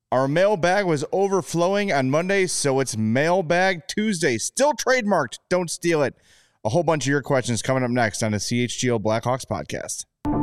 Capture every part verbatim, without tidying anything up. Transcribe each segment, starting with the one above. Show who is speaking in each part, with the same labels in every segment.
Speaker 1: Our mailbag was overflowing on Monday, so it's Mailbag Tuesday. Still trademarked. Don't steal it. A whole bunch of your questions coming up next on the C H G O Blackhawks podcast.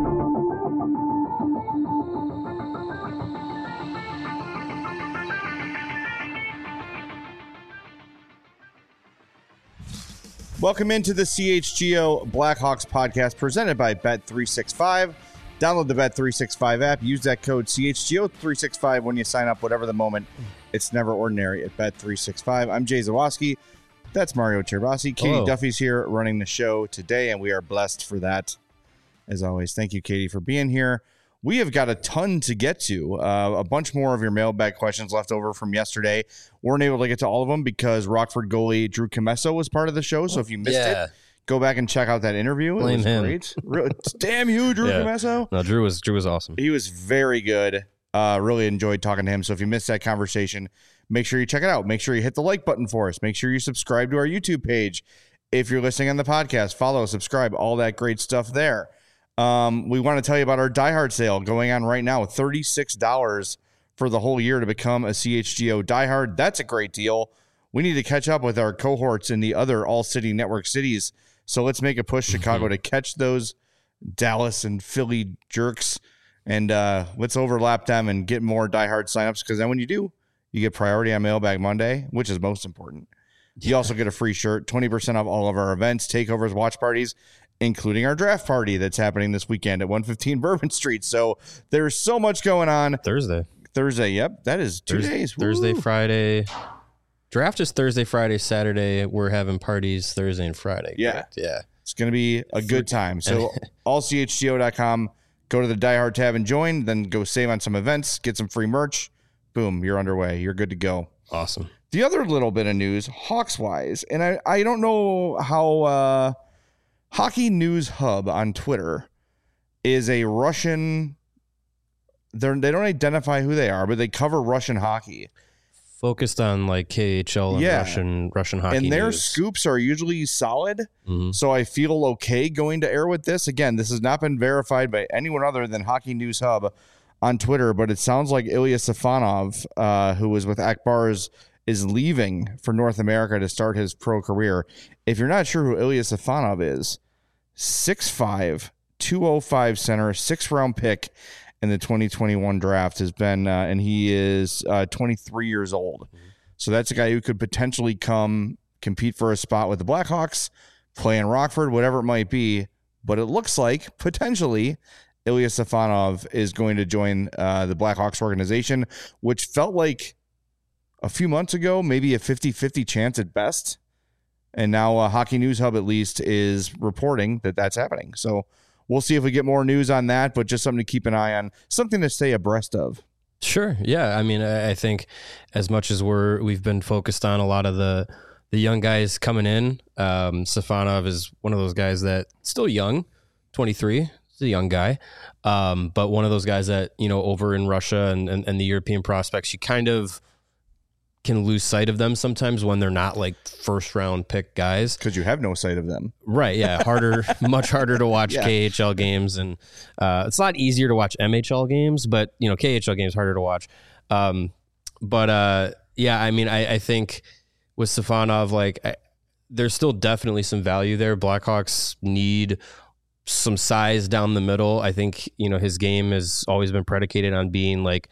Speaker 1: Welcome into the C H G O Blackhawks podcast presented by Bet three sixty-five. Download the Bet three sixty-five app. Use that code C H G O three sixty-five when you sign up, whatever the moment. It's never ordinary at Bet three sixty-five. I'm Jay Zawoski. That's Mario Chervasi. Katie
Speaker 2: Hello.
Speaker 1: Duffy's here running the show today, and we are blessed for that. As always, thank you, Katie, for being here. We have got a ton to get to. Uh, a bunch more of your mailbag questions left over from yesterday. Weren't able to get to all of them because Rockford goalie Drew Commesso was part of the show. So if you missed
Speaker 2: Yeah.
Speaker 1: it, go back and check out that interview.
Speaker 2: Blame
Speaker 1: it was
Speaker 2: him.
Speaker 1: great. Really, damn you, Drew
Speaker 2: Yeah.
Speaker 1: Commesso.
Speaker 2: No, Drew was Drew was awesome.
Speaker 1: He was very good. Uh, really enjoyed talking to him. So if you missed that conversation, make sure you check it out. Make sure you hit the like button for us. Make sure you subscribe to our YouTube page. If you're listening on the podcast, follow, subscribe, all that great stuff there. Um, we want to tell you about our Die Hard sale going on right now. thirty-six dollars for the whole year to become a C H G O Die Hard. That's a great deal. We need to catch up with our cohorts in the other all-city network cities. So let's make a push, Chicago, to catch those Dallas and Philly jerks. And uh, let's overlap them and get more Die Hard signups, because then when you do, you get priority on Mailbag Monday, which is most important. You yeah. also get a free shirt, twenty percent off all of our events, takeovers, watch parties, including our draft party that's happening this weekend at one fifteen Bourbon Street. So there's so much going on.
Speaker 2: Thursday.
Speaker 1: Thursday, yep. That is two
Speaker 2: Thurs-
Speaker 1: days.
Speaker 2: Thursday,
Speaker 1: Woo.
Speaker 2: Friday. Draft is Thursday, Friday, Saturday. We're having parties Thursday and Friday.
Speaker 1: Yeah.
Speaker 2: Correct? Yeah.
Speaker 1: It's going to be a good time. So all C H G O dot com, go to the Die Hard tab and join, then go save on some events, get some free merch. Boom, you're underway. You're good to go.
Speaker 2: Awesome.
Speaker 1: The other little bit of news, Hawks-wise, and I, I don't know how uh, Hockey News Hub on Twitter is a Russian, they're, they don't identify who they are, but they cover Russian hockey.
Speaker 2: Focused on like K H L and
Speaker 1: Yeah.
Speaker 2: Russian Russian hockey.
Speaker 1: And their
Speaker 2: news.
Speaker 1: scoops are usually solid,
Speaker 2: Mm-hmm.
Speaker 1: so I feel okay going to air with this. Again, this has not been verified by anyone other than Hockey News Hub on Twitter, but it sounds like Ilya Safonov, uh, who was with Akbars, is leaving for North America to start his pro career. If you're not sure who Ilya Safonov is, six five, two oh five center, six-round pick in the twenty twenty-one draft has been, uh, and he is uh, twenty-three years old. Mm-hmm. So that's a guy who could potentially come compete for a spot with the Blackhawks, play in Rockford, whatever it might be. But it looks like potentially Ilya Safonov is going to join uh, the Blackhawks organization, which felt like a few months ago, maybe a fifty-fifty chance at best. And now uh, Hockey News Hub at least is reporting that that's happening. So we'll see if we get more news on that, but just something to keep an eye on, something to stay abreast of.
Speaker 2: Sure. Yeah. I mean, I I think as much as we're, we've been focused on a lot of the, the young guys coming in, um, Safonov is one of those guys that still young, twenty-three. He's a young guy. Um, but one of those guys that, you know, over in Russia and, and, and the European prospects, you kind of can lose sight of them sometimes when they're not like first round pick guys.
Speaker 1: Because you have no sight of them.
Speaker 2: Right. Yeah. Harder, much harder to watch
Speaker 1: Yeah.
Speaker 2: K H L games. And uh, it's a lot easier to watch M H L games, but, you know, K H L games harder to watch. Um, but uh, yeah, I mean, I, I think with Safonov, like I, there's still definitely some value there. Blackhawks need some size down the middle. I think, you know, his game has always been predicated on being like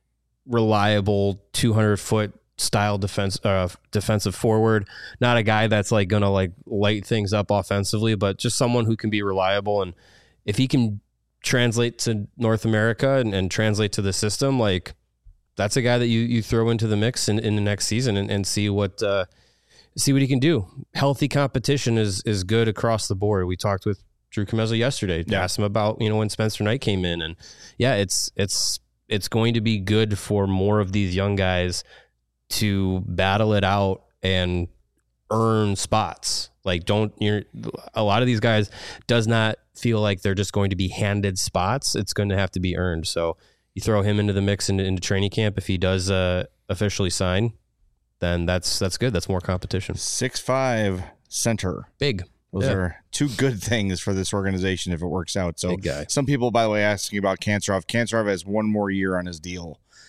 Speaker 2: reliable two hundred foot style defense, uh, defensive forward, not a guy that's like going to like light things up offensively, but just someone who can be reliable. And if he can translate to North America and, and translate to the system, like that's a guy that you, you throw into the mix in, in the next season and, and see what, uh, see what he can do. Healthy competition is, is good across the board. We talked with Drew Commesso yesterday,
Speaker 1: Yeah.
Speaker 2: asked him about, you know, when Spencer Knight came in, and yeah, it's, it's, it's going to be good for more of these young guys to battle it out and earn spots. Like, don't you're a lot of these guys does not feel like they're just going to be handed spots. It's going to have to be earned. So you throw him into the mix into, into training camp. If he does uh, officially sign, then that's, that's good. That's more competition.
Speaker 1: six five center.
Speaker 2: Big.
Speaker 1: Those
Speaker 2: Yeah.
Speaker 1: are two good things for this organization if it works out. So
Speaker 2: Big guy.
Speaker 1: some people, by the way, asking about Kanserov. Kanserov has one more year on his deal.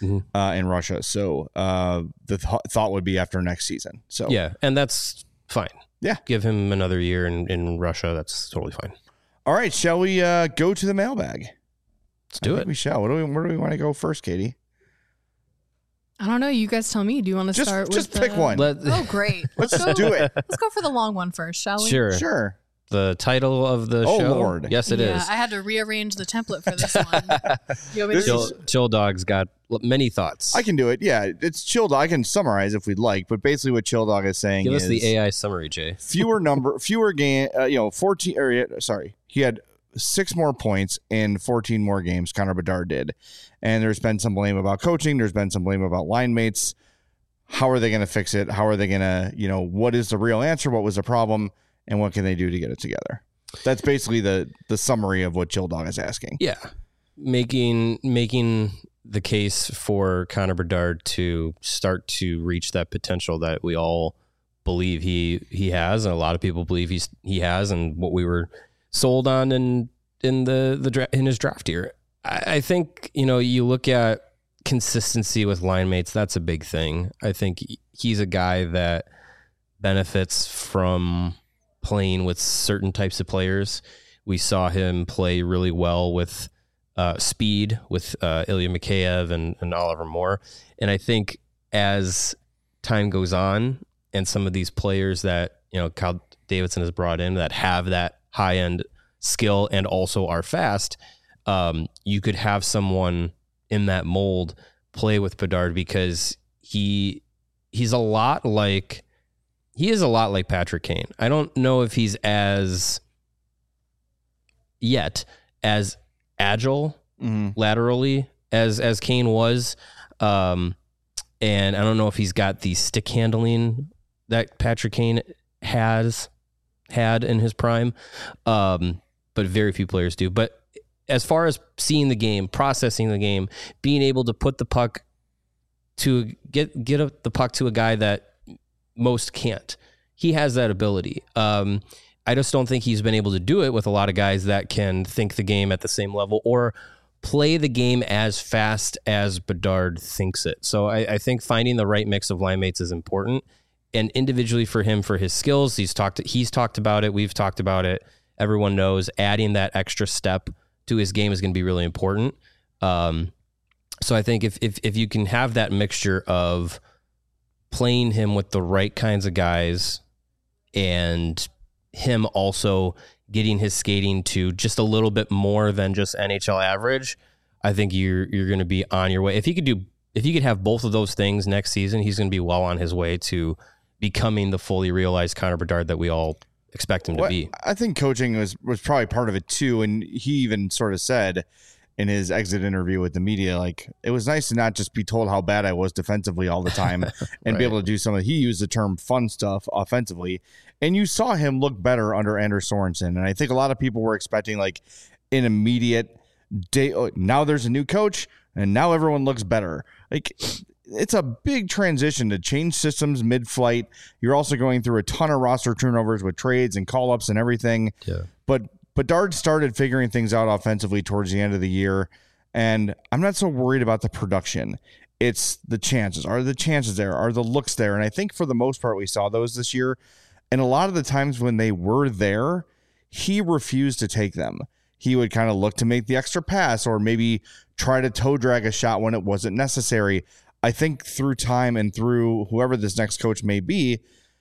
Speaker 2: mm-hmm.
Speaker 1: uh, in Russia. So uh, the th- thought would be after next season. So
Speaker 2: yeah, and that's fine.
Speaker 1: Yeah.
Speaker 2: Give him another year in, in Russia. That's totally fine.
Speaker 1: All right. Shall we uh, go to the mailbag?
Speaker 2: Let's do
Speaker 1: I
Speaker 2: it.
Speaker 1: think we shall. What do we, where do we want to go first, Katie?
Speaker 3: I don't know. You guys tell me. Do you want to
Speaker 1: Just,
Speaker 3: start
Speaker 1: just
Speaker 3: with
Speaker 1: pick
Speaker 3: the...
Speaker 1: one.
Speaker 3: Oh, great.
Speaker 1: Let's just do it.
Speaker 3: Let's go for the long one first, shall we?
Speaker 2: Sure.
Speaker 1: Sure.
Speaker 2: The title of the
Speaker 1: Oh,
Speaker 2: show?
Speaker 1: Lord.
Speaker 2: Yes, it
Speaker 3: yeah,
Speaker 2: is.
Speaker 3: I had to rearrange the template for this one. You want me to
Speaker 1: This
Speaker 2: Chill,
Speaker 1: is-
Speaker 2: Chill Dog's got many thoughts.
Speaker 1: I can do it. Yeah, it's Chill Dog. I can summarize if we'd like, but basically what Chill Dog is saying
Speaker 2: Give
Speaker 1: is
Speaker 2: us the A I summary, Jay.
Speaker 1: fewer number, fewer game. Uh, you know, fourteen. Or yeah, sorry, he had six more points in fourteen more games. Connor Bedard did, and there's been some blame about coaching. There's been some blame about line mates. How are they going to fix it? How are they going to, you know, what is the real answer? What was the problem? And what can they do to get it together? That's basically the the summary of what Chill Dog is asking.
Speaker 2: Yeah. Making making the case for Connor Bedard to start to reach that potential that we all believe he he has, and a lot of people believe he's he has, and what we were sold on in in the the dra- in his draft year. I, I think, you know, you look at consistency with line mates, that's a big thing. I think he's a guy that benefits from playing with certain types of players. We saw him play really well with uh, speed, with uh, Ilya Mikheyev and, and Oliver Moore. And I think as time goes on, and some of these players that, you know, Kyle Davidson has brought in that have that high end skill and also are fast, um, you could have someone in that mold play with Bedard, because he he's a lot like he is a lot like Patrick Kane. I don't know if he's as yet as agile
Speaker 1: Mm-hmm.
Speaker 2: laterally as as Kane was, um, and I don't know if he's got the stick handling that Patrick Kane has had in his prime, um, but very few players do. But as far as seeing the game, processing the game, being able to put the puck to get get a, the puck to a guy that most can't, he has that ability. Um, I just don't think he's been able to do it with a lot of guys that can think the game at the same level or play the game as fast as Bedard thinks it. So I, I think finding the right mix of line mates is important. And individually for him, for his skills, he's talked he's talked about it. We've talked about it. Everyone knows adding that extra step to his game is going to be really important. Um, so I think if, if if you can have that mixture of playing him with the right kinds of guys and him also getting his skating to just a little bit more than just N H L average, I think you're you're going to be on your way. If he could do, if he could have both of those things next season, he's going to be well on his way to becoming the fully realized Connor Bedard that we all expect him
Speaker 1: Well,
Speaker 2: to be.
Speaker 1: I think coaching was was probably part of it too, and he even sort of said in his exit interview with the media, like, it was nice to not just be told how bad I was defensively all the time and
Speaker 2: Right.
Speaker 1: be able to do some of, he used the term fun stuff offensively. And you saw him look better under Anders Sorensen. And I think a lot of people were expecting like an immediate day. Oh, now there's a new coach and now everyone looks better. Like, it's a big transition to change systems mid-flight. You're also going through a ton of roster turnovers with trades and call-ups and everything.
Speaker 2: Yeah.
Speaker 1: But Bedard started figuring things out offensively towards the end of the year, and I'm not so worried about the production. It's the chances. Are the chances there? Are the looks there? And I think for the most part we saw those this year. And a lot of the times when they were there, he refused to take them. He would kind of look to make the extra pass or maybe try to toe drag a shot when it wasn't necessary. I think through time and through whoever this next coach may be,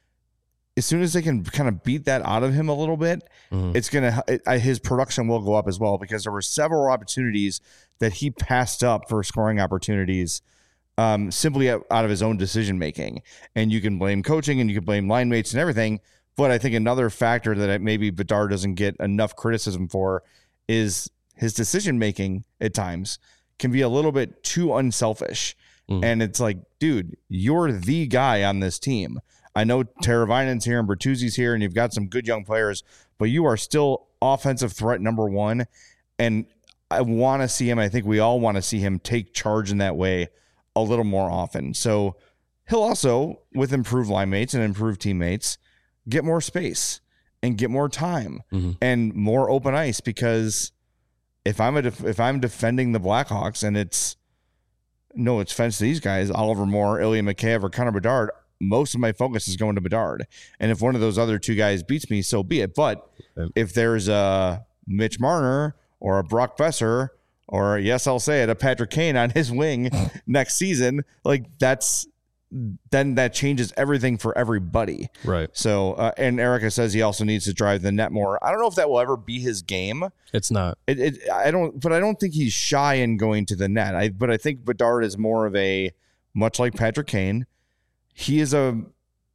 Speaker 1: as soon as they can kind of beat that out of him a little bit,
Speaker 2: Mhm.
Speaker 1: it's going to, it, his production will go up as well, because there were several opportunities that he passed up for scoring opportunities um, simply out of his own decision making. And you can blame coaching and you can blame line mates and everything. But I think another factor that maybe Bedard doesn't get enough criticism for is his decision making at times can be a little bit too unselfish.
Speaker 2: Mm.
Speaker 1: And it's like, dude, you're the guy on this team. I know Teravainen's here and Bertuzzi's here, and you've got some good young players, but you are still offensive threat number one. And I want to see him. I think we all want to see him take charge in that way a little more often. So he'll also, with improved line mates and improved teammates, get more space and get more time
Speaker 2: Mm-hmm.
Speaker 1: and more open ice. Because if I'm a def- if I'm defending the Blackhawks and it's no offense to these guys, Oliver Moore, Ilya Mikheyev, or Connor Bedard, most of my focus is going to Bedard. And if one of those other two guys beats me, so be it. But if there's a Mitch Marner or a Brock Besser or, yes, I'll say it, a Patrick Kane on his wing next season, like that's then that changes everything for everybody.
Speaker 2: Right.
Speaker 1: So, uh, and Erica says he also needs to drive the net more. I don't know if that will ever be his game.
Speaker 2: It's not.
Speaker 1: It, it I don't, but I don't think he's shy in going to the net. I, but I think Bedard is more of a, much like Patrick Kane, he is a,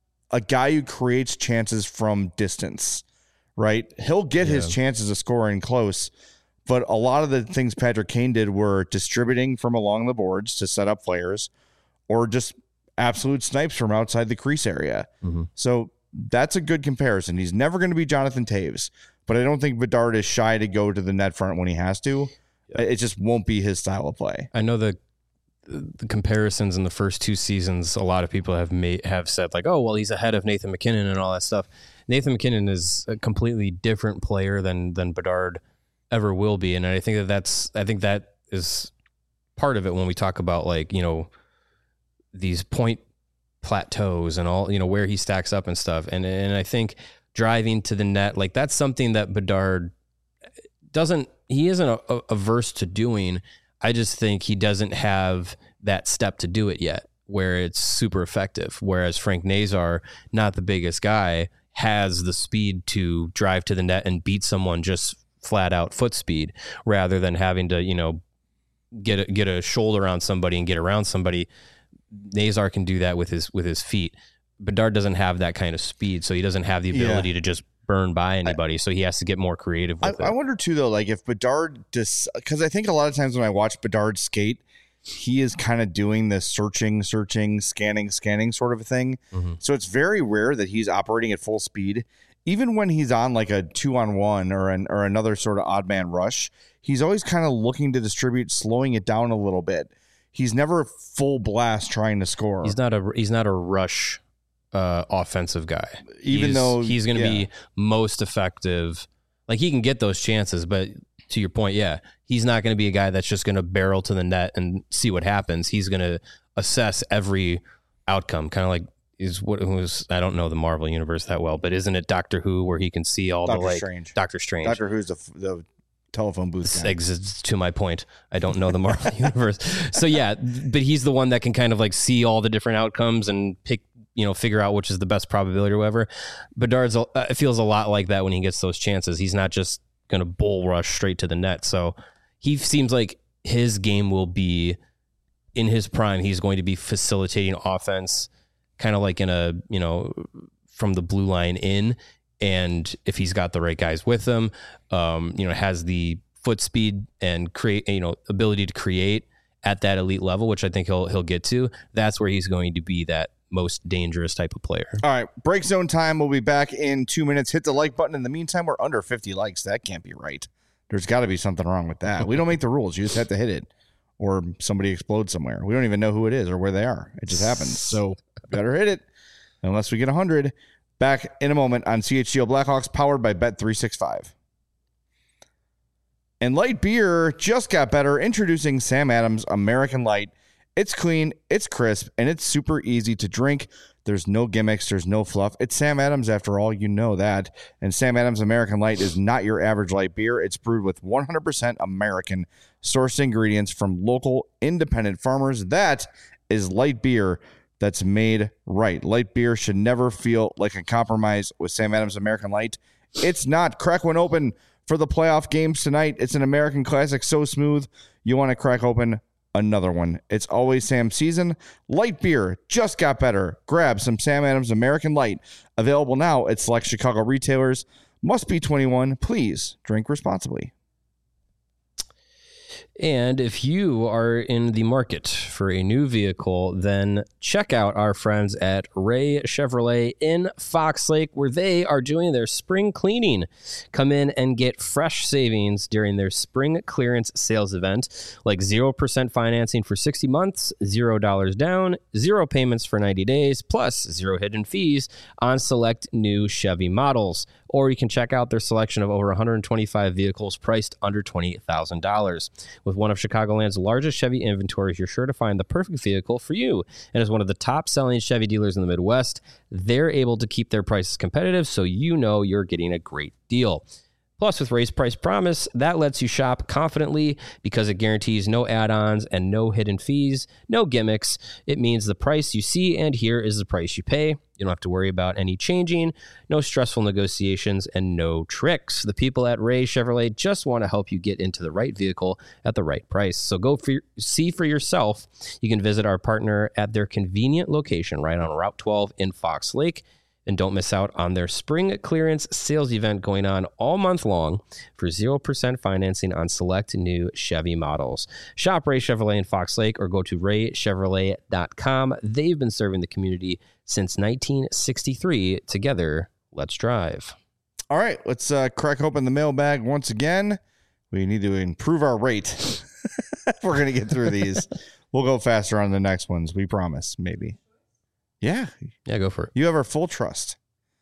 Speaker 1: a guy who creates chances from distance, right? He'll get yeah. his chances of scoring close, but a lot of the things Patrick Kane did were distributing from along the boards to set up players, or just absolute snipes from outside the crease area. Mm-hmm. So that's a good comparison. He's never going to be Jonathan Toews, but I don't think Bedard is shy to go to the net front when he has to. Yeah. It just won't be his style of play.
Speaker 2: I know the the comparisons in the first two seasons, a lot of people have made, have said like, oh, well, he's ahead of Nathan MacKinnon and all that stuff. Nathan MacKinnon is a completely different player than than Bedard ever will be. And I think that that's, I think that is part of it when we talk about like, you know, these point plateaus and all, you know, where he stacks up and stuff. And and I think driving to the net, like that's something that Bedard doesn't, he isn't a, a, averse to doing. I just think he doesn't have that step to do it yet where it's super effective. Whereas Frank Nazar, not the biggest guy, has the speed to drive to the net and beat someone just flat out foot speed rather than having to, you know, get a, get a shoulder on somebody and get around somebody. Nazar can do that with his with his feet. Bedard doesn't have that kind of speed, so he doesn't have the ability yeah. to just burn by anybody. I, so he has to get more creative with
Speaker 1: I,
Speaker 2: it.
Speaker 1: I wonder too, though, like if Bedard just because I think a lot of times when I watch Bedard skate, he is kind of doing this searching, searching, scanning, scanning sort of a thing. Mm-hmm. So it's very rare that he's operating at full speed. Even when he's on like a two on one or an or another sort of odd man rush, he's always kind of looking to distribute, slowing it down a little bit. He's never full blast trying to score.
Speaker 2: He's not a he's not a rush uh, offensive guy.
Speaker 1: Even
Speaker 2: he's,
Speaker 1: though
Speaker 2: he's going to
Speaker 1: yeah.
Speaker 2: be most effective, like he can get those chances. But to your point, yeah, he's not going to be a guy that's just going to barrel to the net and see what happens. He's going to assess every outcome, kind of like is what was I don't know the Marvel universe that well, but isn't it Doctor Who where he can see all
Speaker 1: Doctor
Speaker 2: the like
Speaker 1: Strange.
Speaker 2: Doctor Strange?
Speaker 1: Doctor Who's the the telephone booth guy.
Speaker 2: Exists to my point. I don't know the Marvel universe. So yeah, but he's the one that can kind of like see all the different outcomes and pick, you know, figure out which is the best probability or whatever. Bedard's uh, it feels a lot like that when he gets those chances. He's not just going to bull rush straight to the net. So he seems like his game will be in his prime. He's going to be facilitating offense kind of like in a, you know, from the blue line in. And if he's got the right guys with him, um, you know, has the foot speed and create, you know, ability to create at that elite level, which I think he'll he'll get to. That's where he's going to be that most dangerous type of player.
Speaker 1: All right, break zone time. We'll be back in two minutes. Hit the like button. In the meantime, we're under fifty likes. That can't be right. There's got to be something wrong with that. We don't make the rules. You just have to hit it, or somebody explodes somewhere. We don't even know who it is or where they are. It just happens. So better hit it, unless we get a hundred. Back in a moment on C H G O Blackhawks, powered by Bet three sixty-five. And light beer just got better. Introducing Sam Adams American Light. It's clean, it's crisp, and it's super easy to drink. There's no gimmicks, there's no fluff. It's Sam Adams after all, you know that. And Sam Adams American Light is not your average light beer. It's brewed with one hundred percent American sourced ingredients from local independent farmers. That is light beer that's made right. Light beer should never feel like a compromise with Sam Adams American Light. It's not. Crack one open for the playoff games tonight. It's an American classic, so smooth, you want to crack open another one. It's always Sam season. Light beer just got better. Grab some Sam Adams American Light. Available now at select Chicago retailers. Must be twenty-one. Please drink responsibly.
Speaker 2: And if you are in the market for a new vehicle, then check out our friends at Ray Chevrolet in Fox Lake, where they are doing their spring cleaning. Come in and get fresh savings during their spring clearance sales event, like zero percent financing for sixty months, zero dollars down, zero payments for ninety days, plus zero hidden fees on select new Chevy models. or you can check out their selection of over one hundred twenty-five vehicles priced under twenty thousand dollars. With one of Chicagoland's largest Chevy inventories, you're sure to find the perfect vehicle for you. And as one of the top-selling Chevy dealers in the Midwest, they're able to keep their prices competitive, so you know you're getting a great deal. Plus, with Race Price Promise, that lets you shop confidently because it guarantees no add-ons and no hidden fees, no gimmicks. It means the price you see and hear is the price you pay. You don't have to worry about any changing, no stressful negotiations, and no tricks. The people at Ray Chevrolet just want to help you get into the right vehicle at the right price. So go for, see for yourself. You can visit our partner at their convenient location right on Route twelve in Fox Lake. And don't miss out on their spring clearance sales event going on all month long for zero percent financing on select new Chevy models. Shop Ray Chevrolet in Fox Lake or go to ray chevrolet dot com. They've been serving the community since nineteen sixty-three. Together, let's drive.
Speaker 1: All right, let's uh, crack open the mailbag once again. We need to improve our rate. We're going to get through these. We'll go faster on the next ones, we promise, maybe. Yeah.
Speaker 2: Yeah, go for it.
Speaker 1: You have our full trust.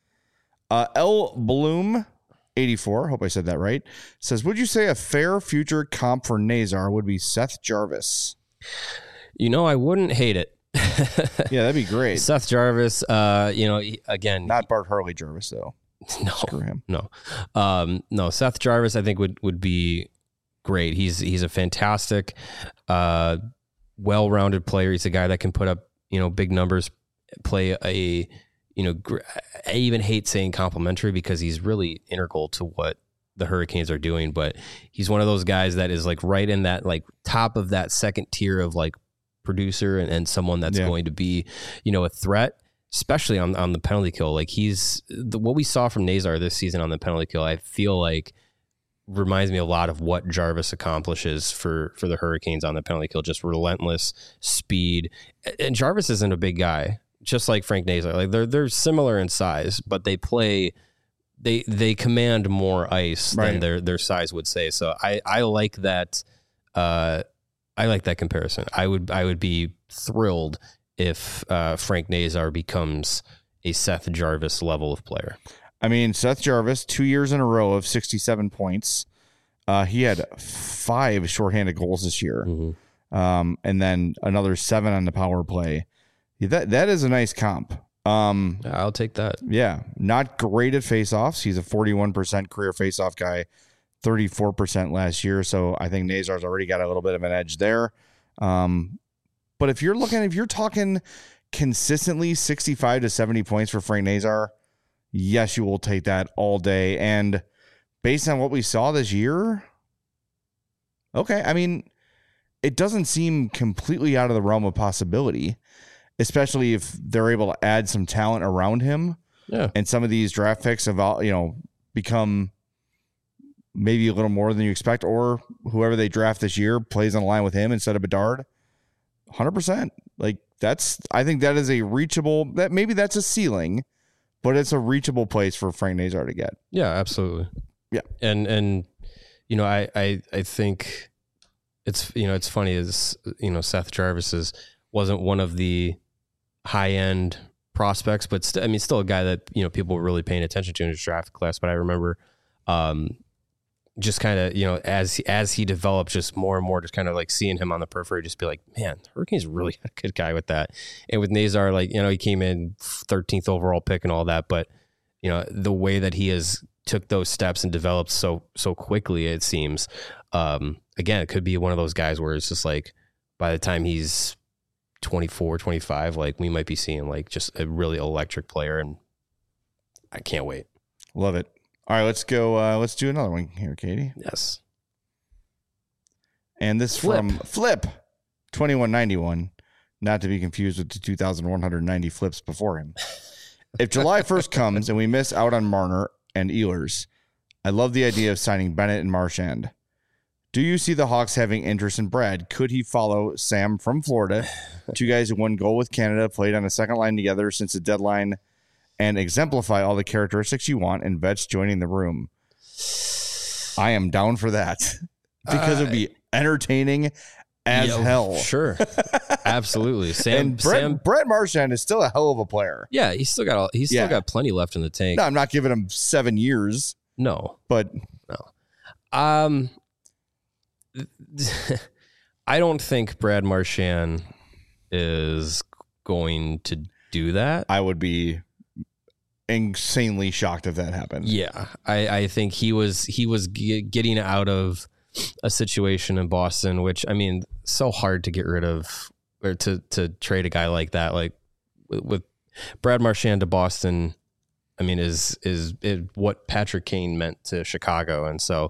Speaker 1: Uh, L Bloom eighty-four, hope I said that right, says, would you say a fair future comp for Nazar would be Seth Jarvis?
Speaker 2: You know, I wouldn't hate it.
Speaker 1: Yeah, that'd be great.
Speaker 2: Seth Jarvis, uh, you know, again.
Speaker 1: Not Bart Harley Jarvis, though.
Speaker 2: No.
Speaker 1: Screw him.
Speaker 2: No. Um, no, Seth Jarvis, I think, would, would be great. He's he's a fantastic, uh, well-rounded player. He's a guy that can put up, you know, big numbers, play a, you know, gr- I even hate saying complimentary because he's really integral to what the Hurricanes are doing, but he's one of those guys that is like right in that like top of that second tier of like producer and, and someone that's yeah. going to be, you know, a threat, especially on, on the penalty kill. Like he's the, what we saw from Nazar this season on the penalty kill, I feel like reminds me a lot of what Jarvis accomplishes for, for the Hurricanes on the penalty kill, just relentless speed. And Jarvis isn't a big guy, just like Frank Nazar. Like they're they're similar in size, but they play they they command more ice right. than their their size would say. So I, I like that uh, I like that comparison. I would I would be thrilled if uh, Frank Nazar becomes a Seth Jarvis level of player.
Speaker 1: I mean, Seth Jarvis, two years in a row of sixty-seven points. Uh, he had five shorthanded goals this year, mm-hmm. um, and then another seven on the power play. That that is a nice comp. Um,
Speaker 2: yeah, I'll take that.
Speaker 1: Yeah, not great at faceoffs. He's a forty-one percent career faceoff guy, thirty-four percent last year. So I think Nazar's already got a little bit of an edge there. Um, but if you're looking, if you're talking consistently sixty-five to seventy points for Frank Nazar, yes, you will take that all day. And based on what we saw this year, okay, I mean, it doesn't seem completely out of the realm of possibility, especially if they're able to add some talent around him.
Speaker 2: Yeah. And
Speaker 1: some of these draft picks have, you know, become maybe a little more than you expect, or whoever they draft this year plays on the line with him instead of Bedard. one hundred percent. Like that's, I think that is a reachable, that maybe that's a ceiling, but it's a reachable place for Frank Nazar to get.
Speaker 2: Yeah, absolutely.
Speaker 1: Yeah.
Speaker 2: And, and, you know, I, I, I think it's, you know, it's funny is, you know, Seth Jarvis is, wasn't one of the high end prospects, but st- I mean, still a guy that, you know, people were really paying attention to in his draft class. But I remember, um, just kind of, you know, as, as he developed just more and more, just kind of like seeing him on the periphery, just be like, man, Hurricanes really had a good guy with that. And with Nazar, like, you know, he came in thirteenth overall pick and all that, but you know, the way that he has took those steps and developed so, so quickly, it seems, um, again, it could be one of those guys where it's just like, by the time he's twenty-four, twenty-five, like we might be seeing like just a really electric player, and I can't wait.
Speaker 1: Love it. All right, let's go. Uh, let's do another one here, Katie.
Speaker 2: Yes.
Speaker 1: And this
Speaker 2: Flip.
Speaker 1: from Flip twenty-one ninety-one, not to be confused with the two thousand one hundred ninety flips before him. If July first comes and we miss out on Marner and Ehlers, I love the idea of signing Bennett and Marchand. Do you see the Hawks having interest in Brad? Could he follow Sam from Florida? Two guys who won goal with Canada, played on the second line together since the deadline, and exemplify all the characteristics you want in vets joining the room. I am down for that because uh, it would be entertaining as
Speaker 2: Yeah,
Speaker 1: hell.
Speaker 2: Sure. Absolutely. Sam,
Speaker 1: and Brett,
Speaker 2: Sam,
Speaker 1: Brett Marchand is still a hell of a player.
Speaker 2: yeah, he's still got, all, he's still
Speaker 1: Yeah.
Speaker 2: got plenty left in the tank.
Speaker 1: No, I'm not giving him seven years,
Speaker 2: No,
Speaker 1: but
Speaker 2: Um, I don't think Brad Marchand is going to do that.
Speaker 1: I would be insanely shocked if that happened.
Speaker 2: Yeah, I, I think he was he was g- getting out of a situation in Boston, which I mean, so hard to get rid of or to to trade a guy like that. Like with, with Brad Marchand to Boston, I mean, is is is what Patrick Kane meant to Chicago, and so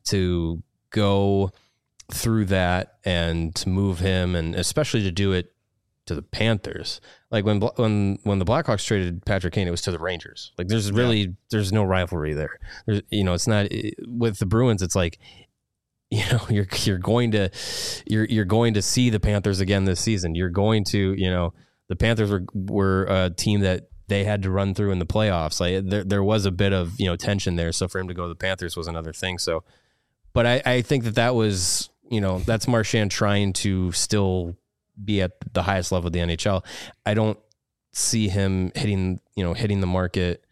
Speaker 2: to go through that and to move him, and especially to do it to the Panthers, like when when when the Blackhawks traded Patrick Kane, it was to the Rangers. Like there's really yeah. there's no rivalry there. There's, you know, it's not with the Bruins. It's like, you know, you're you're going to you're you're going to see the Panthers again this season. You're going to, you know, the Panthers were were a team that they had to run through in the playoffs. Like there there was a bit of, you know, tension there. So for him to go to the Panthers was another thing. So, but I I think that that was, you know, that's Marchand trying to still be at the highest level of the N H L. I don't see him hitting, you know, hitting the market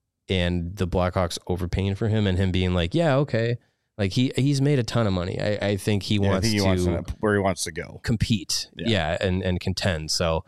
Speaker 2: and the Blackhawks overpaying for him and him being like, yeah, okay. Like he, he's made a ton of money. I, I think he yeah, wants think he to
Speaker 1: wants to where he wants to go
Speaker 2: compete. Yeah. yeah and, and contend. So,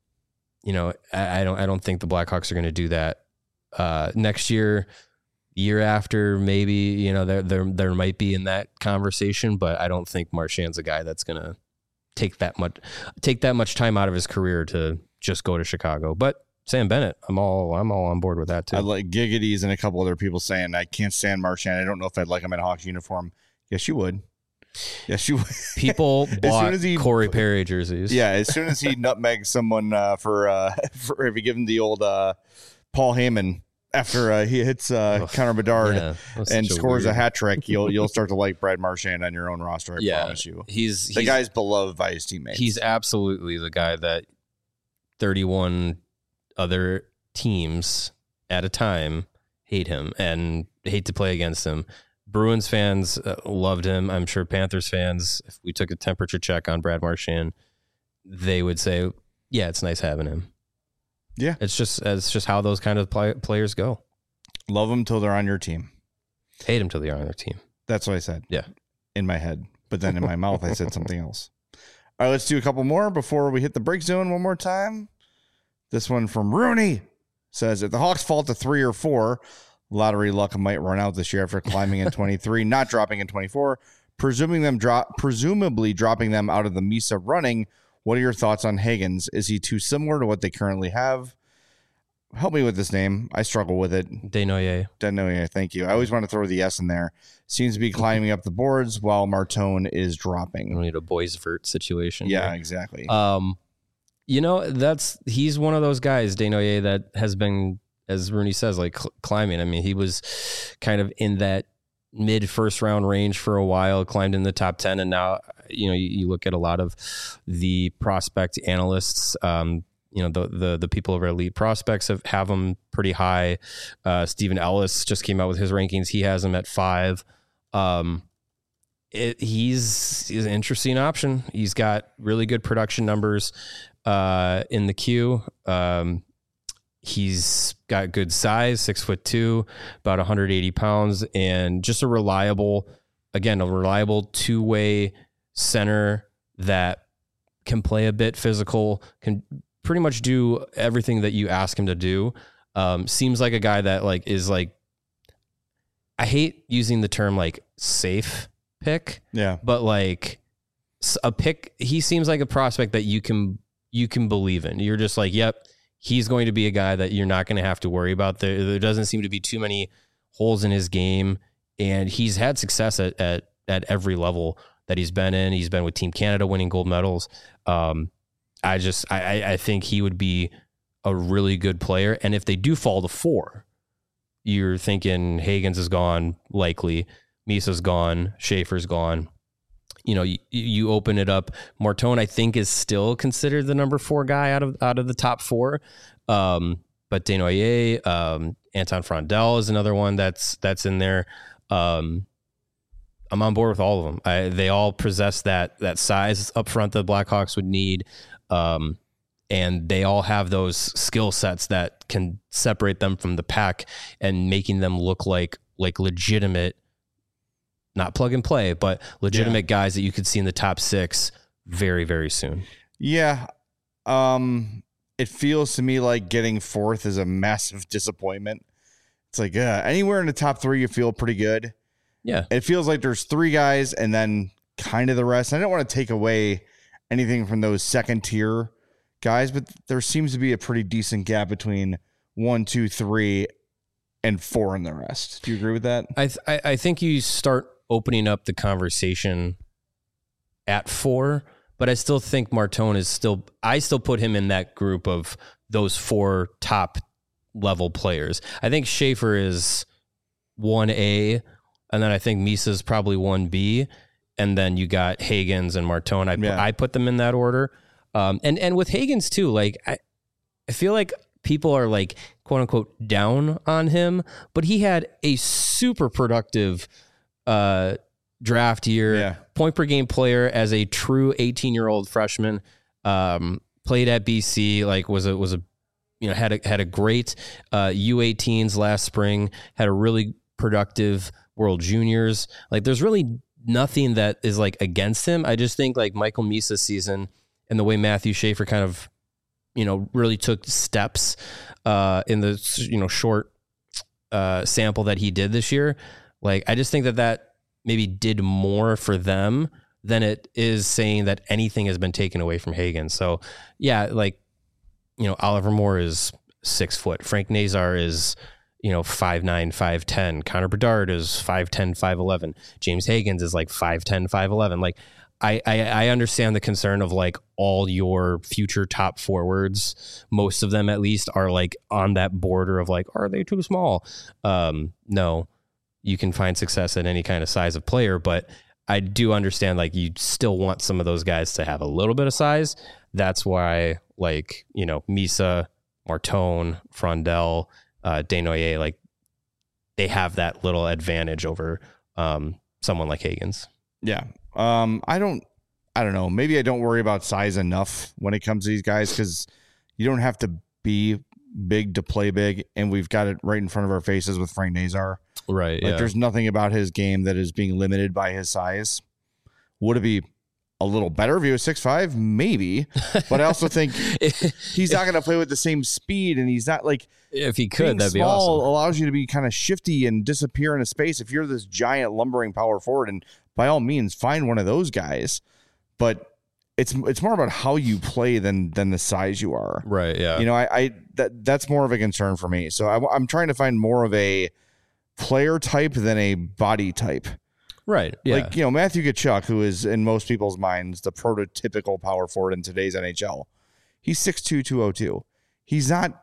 Speaker 2: you know, I, I don't, I don't think the Blackhawks are going to do that uh, next year, year after, maybe, you know, there, there, there might be in that conversation, but I don't think Marchand's a guy that's going to take that much, take that much time out of his career to just go to Chicago. But Sam Bennett, I'm all, I'm all on board with that too.
Speaker 1: I like Giggities and a couple other people saying I can't stand Marchand. I don't know if I'd like him in a Hawks uniform. Yes, you would. Yes, you would.
Speaker 2: People bought he, Corey Perry jerseys.
Speaker 1: Yeah, as soon as he nutmegs someone uh, for, uh, for if you give him the old uh, Paul Heyman after uh, he hits uh, Ugh, Connor Bedard yeah, and scores a, a hat trick, you'll you'll start to like Brad Marchand on your own roster. I yeah, promise you.
Speaker 2: He's
Speaker 1: the
Speaker 2: he's,
Speaker 1: guy's beloved by his teammates.
Speaker 2: He's absolutely the guy that thirty-one other teams at a time hate him and hate to play against him. Bruins fans uh, loved him. I'm sure Panthers fans, if we took a temperature check on Brad Marchand, they would say, yeah, it's nice having him.
Speaker 1: Yeah.
Speaker 2: It's just it's just how those kind of play, players go.
Speaker 1: Love them till they're on your team.
Speaker 2: Hate them till they're on their team.
Speaker 1: That's what I said.
Speaker 2: Yeah.
Speaker 1: In my head. But then in my mouth, I said something else. All right, let's do a couple more before we hit the break zone one more time. This one from Rooney says, if the Hawks fall to three or four, lottery luck might run out this year after climbing in twenty-three, not dropping in twenty-four, presuming them drop, presumably dropping them out of the Misa running. What are your thoughts on Higgins? Is he too similar to what they currently have? Help me with this name. I struggle with it.
Speaker 2: Desnoyers.
Speaker 1: Desnoyers, thank you. I always want to throw the S in there. Seems to be climbing up the boards while Martone is dropping.
Speaker 2: We need a Boisvert situation.
Speaker 1: Yeah,
Speaker 2: here.
Speaker 1: exactly.
Speaker 2: Um, you know, that's he's one of those guys, Desnoyers, that has been, as Rooney says, like cl- climbing. I mean, he was kind of in that mid first round range for a while, climbed in the top ten, and now, you know, you, you look at a lot of the prospect analysts, um, you know, the the the people over Elite Prospects have, have him pretty high. Uh, Stephen Ellis just came out with his rankings. He has him at five. Um, it, he's, he's an interesting option. He's got really good production numbers uh, in the queue. Um, he's got good size, six foot two, about one hundred eighty pounds, and just a reliable, again, a reliable two-way center that can play a bit physical, can pretty much do everything that you ask him to do. Um, seems like a guy that like is like, I hate using the term like safe pick,
Speaker 1: yeah,
Speaker 2: but like a pick, he seems like a prospect that you can, you can believe in. You're just like, yep, he's going to be a guy that you're not going to have to worry about. There, there doesn't seem to be too many holes in his game, and he's had success at, at, at every level that he's been in. He's been with Team Canada winning gold medals. Um, I just, I, I think he would be a really good player. And if they do fall to four, you're thinking Higgins is gone, likely. Misa's gone. Schaefer's gone. You know, you, you open it up. Martone, I think, is still considered the number four guy out of out of the top four. Um, but Desnoyers, um, Anton Frondel is another one that's that's in there. Um, I'm on board with all of them. I, they all possess that that size up front that the Blackhawks would need, um, and they all have those skill sets that can separate them from the pack and making them look like like legitimate, not plug and play, but legitimate yeah. guys that you could see in the top six very, very soon.
Speaker 1: Yeah. Um, it feels to me like getting fourth is a massive disappointment. It's like, uh, anywhere in the top three, you feel pretty good.
Speaker 2: Yeah.
Speaker 1: It feels like there's three guys and then kind of the rest. I don't want to take away anything from those second tier guys, but there seems to be a pretty decent gap between one, two, three, and four in the rest. Do you agree with that?
Speaker 2: I th- I, I think you start opening up the conversation at four, but I still think Martone is still, I still put him in that group of those four top level players. I think Schaefer is one A, and then I think Misa's probably one B, and then you got Hagens and Martone. I,
Speaker 1: yeah.
Speaker 2: I put them in that order. Um, and, and with Hagens too, like, I, I feel like people are like, quote unquote, down on him, but he had a super productive uh, draft year,
Speaker 1: yeah.
Speaker 2: point per game player as a true eighteen year old freshman, um, played at B C, like was a, was a, you know, had a, had a great uh, U eighteens last spring, had a really productive World Juniors. Like there's really nothing that is like against him. I just think like Michael Misa's season and the way Matthew Schaefer kind of, you know, really took steps uh, in the, you know, short uh, sample that he did this year. Like, I just think that that maybe did more for them than it is saying that anything has been taken away from Hagen. So yeah, like, you know, Oliver Moore is six foot. Frank Nazar is, you know, five nine, five ten. Connor Bedard is five ten, five eleven. James Hagens is like five ten, five eleven. Like, I, I, I understand the concern of like all your future top forwards, most of them at least, are like on that border of like, are they too small? Um, no, you can find success at any kind of size of player, but I do understand like you still want some of those guys to have a little bit of size. That's why like, you know, Misa, Martone, Frondel, uh, Desnoyers, like they have that little advantage over um, someone like Hagens.
Speaker 1: Yeah. Um, I don't, I don't know. Maybe I don't worry about size enough when it comes to these guys because you don't have to be big to play big, and we've got it right in front of our faces with Frank Nazar.
Speaker 2: Right.
Speaker 1: Like
Speaker 2: yeah.
Speaker 1: There's nothing about his game that is being limited by his size. Would it be a little better if he was six five? Maybe. But I also think he's not going to play with the same speed, and he's not like,
Speaker 2: if he could,
Speaker 1: being
Speaker 2: that'd be
Speaker 1: small
Speaker 2: awesome.
Speaker 1: Allows you to be kind of shifty and disappear into space. If you're this giant lumbering power forward, and by all means find one of those guys, but it's it's more about how you play than than the size you are.
Speaker 2: Right. Yeah.
Speaker 1: You know, I, I that that's more of a concern for me. So I, I'm trying to find more of a player type than a body type.
Speaker 2: Right. Yeah.
Speaker 1: Like, you know, Matthew Tkachuk, who is in most people's minds the prototypical power forward in today's N H L. He's six two, two oh two. He's not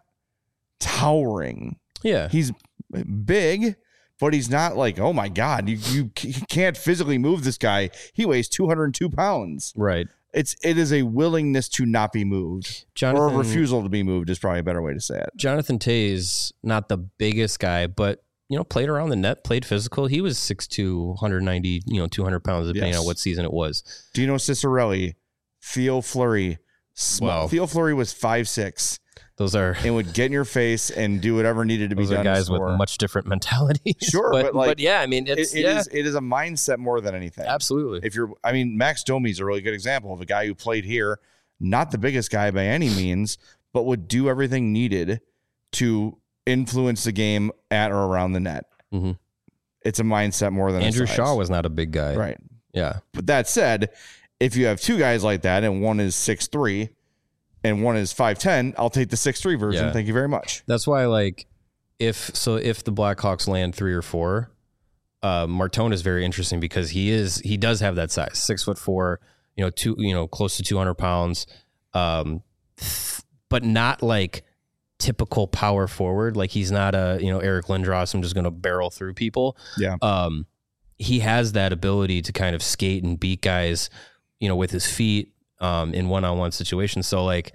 Speaker 1: towering.
Speaker 2: Yeah.
Speaker 1: He's big, but he's not like, oh my God, you you can't physically move this guy. He weighs two hundred two pounds.
Speaker 2: Right.
Speaker 1: It's it is a willingness to not be moved,
Speaker 2: Jonathan,
Speaker 1: or a refusal to be moved is probably a better way to say it.
Speaker 2: Jonathan Toews, not the biggest guy, but you know, played around the net, played physical. He was six two, one ninety, you know, two hundred pounds, depending yes. on what season it was.
Speaker 1: Dino Ciccarelli, Theo Fleury. Small. Wow. Theo Fleury was five six.
Speaker 2: Those are
Speaker 1: and would get in your face and do whatever needed to be
Speaker 2: those
Speaker 1: done.
Speaker 2: Are guys with much different mentalities.
Speaker 1: Sure,
Speaker 2: but,
Speaker 1: but like,
Speaker 2: but yeah, I mean, it's
Speaker 1: it, it
Speaker 2: yeah.
Speaker 1: is it is a mindset more than anything.
Speaker 2: Absolutely.
Speaker 1: If you're, I mean, Max Domi is a really good example of a guy who played here, not the biggest guy by any means, but would do everything needed to influence the game at or around the net.
Speaker 2: Mm-hmm.
Speaker 1: It's a mindset more than
Speaker 2: Andrew
Speaker 1: a size.
Speaker 2: Shaw was not a big guy,
Speaker 1: right?
Speaker 2: Yeah.
Speaker 1: But that said, if you have two guys like that and one is six three. And one is five ten, I'll take the six three version. Yeah. Thank you very much.
Speaker 2: That's why, like, if so, if the Blackhawks land three or four, uh, Martone is very interesting because he is he does have that size, six foot four, you know, two, you know, close to two hundred pounds, um, but not like typical power forward. Like he's not a you know Eric Lindros. I'm just going to barrel through people.
Speaker 1: Yeah.
Speaker 2: Um, he has that ability to kind of skate and beat guys, you know, with his feet. Um, in one-on-one situations. So like,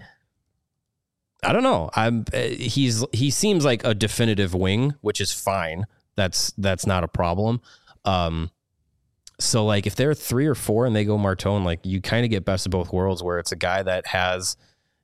Speaker 2: I don't know. I'm, uh, he's, he seems like a definitive wing, which is fine. That's, that's not a problem. Um, So like if they're three or four and they go Martone, like you kind of get best of both worlds where it's a guy that has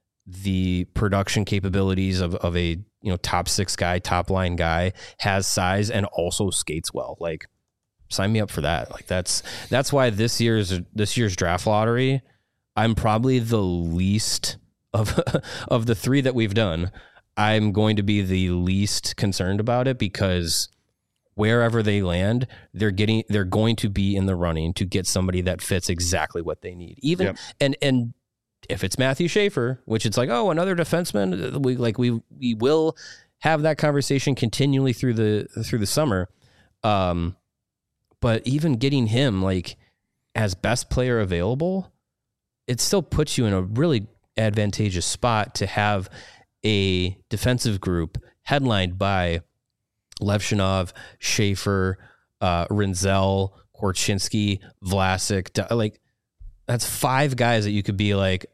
Speaker 2: the production capabilities of, of a, you know, top six guy, top line guy, has size and also skates well. Like sign me up for that. Like that's, that's why this year's, this year's draft lottery, I'm probably the least of, of the three that we've done. I'm going to be the least concerned about it because wherever they land, they're getting, they're going to be in the running to get somebody that fits exactly what they need. Even, yep. and, and if it's Matthew Schaefer, which it's like, oh, another defenseman, we like, we, we will have that conversation continually through the, through the summer. Um, but even getting him like as best player available, it still puts you in a really advantageous spot to have a defensive group headlined by Levshinov, Schaefer, uh, Rinzel, Korchinski, Vlasic. Like that's five guys that you could be like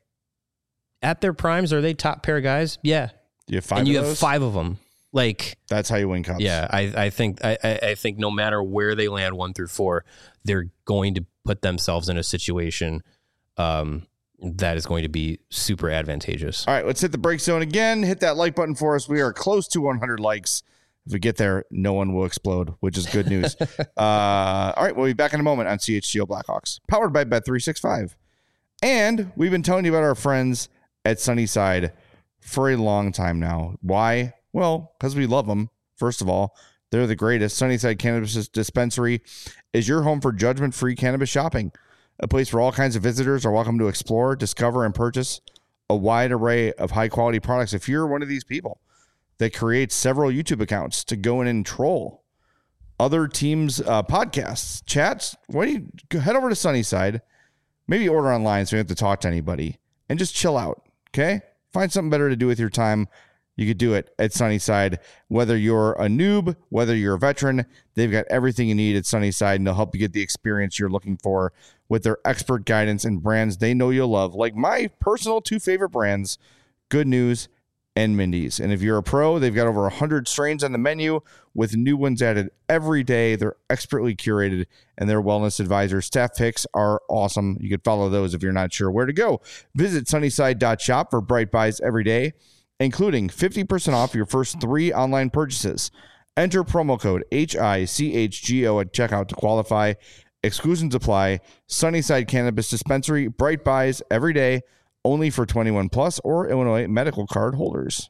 Speaker 2: at their primes. Are they top pair guys? Yeah.
Speaker 1: You have five
Speaker 2: and you
Speaker 1: of
Speaker 2: have
Speaker 1: those?
Speaker 2: five of them. Like
Speaker 1: that's how you win cups.
Speaker 2: Yeah. I, I think, I, I think no matter where they land one through four, they're going to put themselves in a situation, um, that is going to be super advantageous.
Speaker 1: All right, let's hit the break zone again. Hit that like button for us. We are close to one hundred likes. If we get there, no one will explode, which is good news. uh, all right, we'll be back in a moment on C H G O Blackhawks, powered by Bet three sixty-five. And we've been telling you about our friends at Sunnyside for a long time now. Why? Well, because we love them. First of all, they're the greatest. Sunnyside Cannabis Dispensary is your home for judgment-free cannabis shopping. A place where all kinds of visitors are welcome to explore, discover, and purchase a wide array of high-quality products. If you're one of these people that creates several YouTube accounts to go in and troll other teams' uh, podcasts, chats, why don't you head over to Sunnyside, maybe order online so you don't have to talk to anybody, and just chill out, okay? Find something better to do with your time. You could do it at Sunnyside. Whether you're a noob, whether you're a veteran, they've got everything you need at Sunnyside, and they'll help you get the experience you're looking for with their expert guidance and brands they know you'll love, like my personal two favorite brands, Good News and Mindy's. And if you're a pro, they've got over one hundred strains on the menu with new ones added every day. They're expertly curated, and their wellness advisor staff picks are awesome. You could follow those if you're not sure where to go. Visit sunnyside dot shop for bright buys every day, including fifty percent off your first three online purchases. Enter promo code H I C H G O at checkout to qualify. Exclusions apply. Sunnyside Cannabis Dispensary, bright buys every day, only for twenty-one plus or Illinois medical card holders.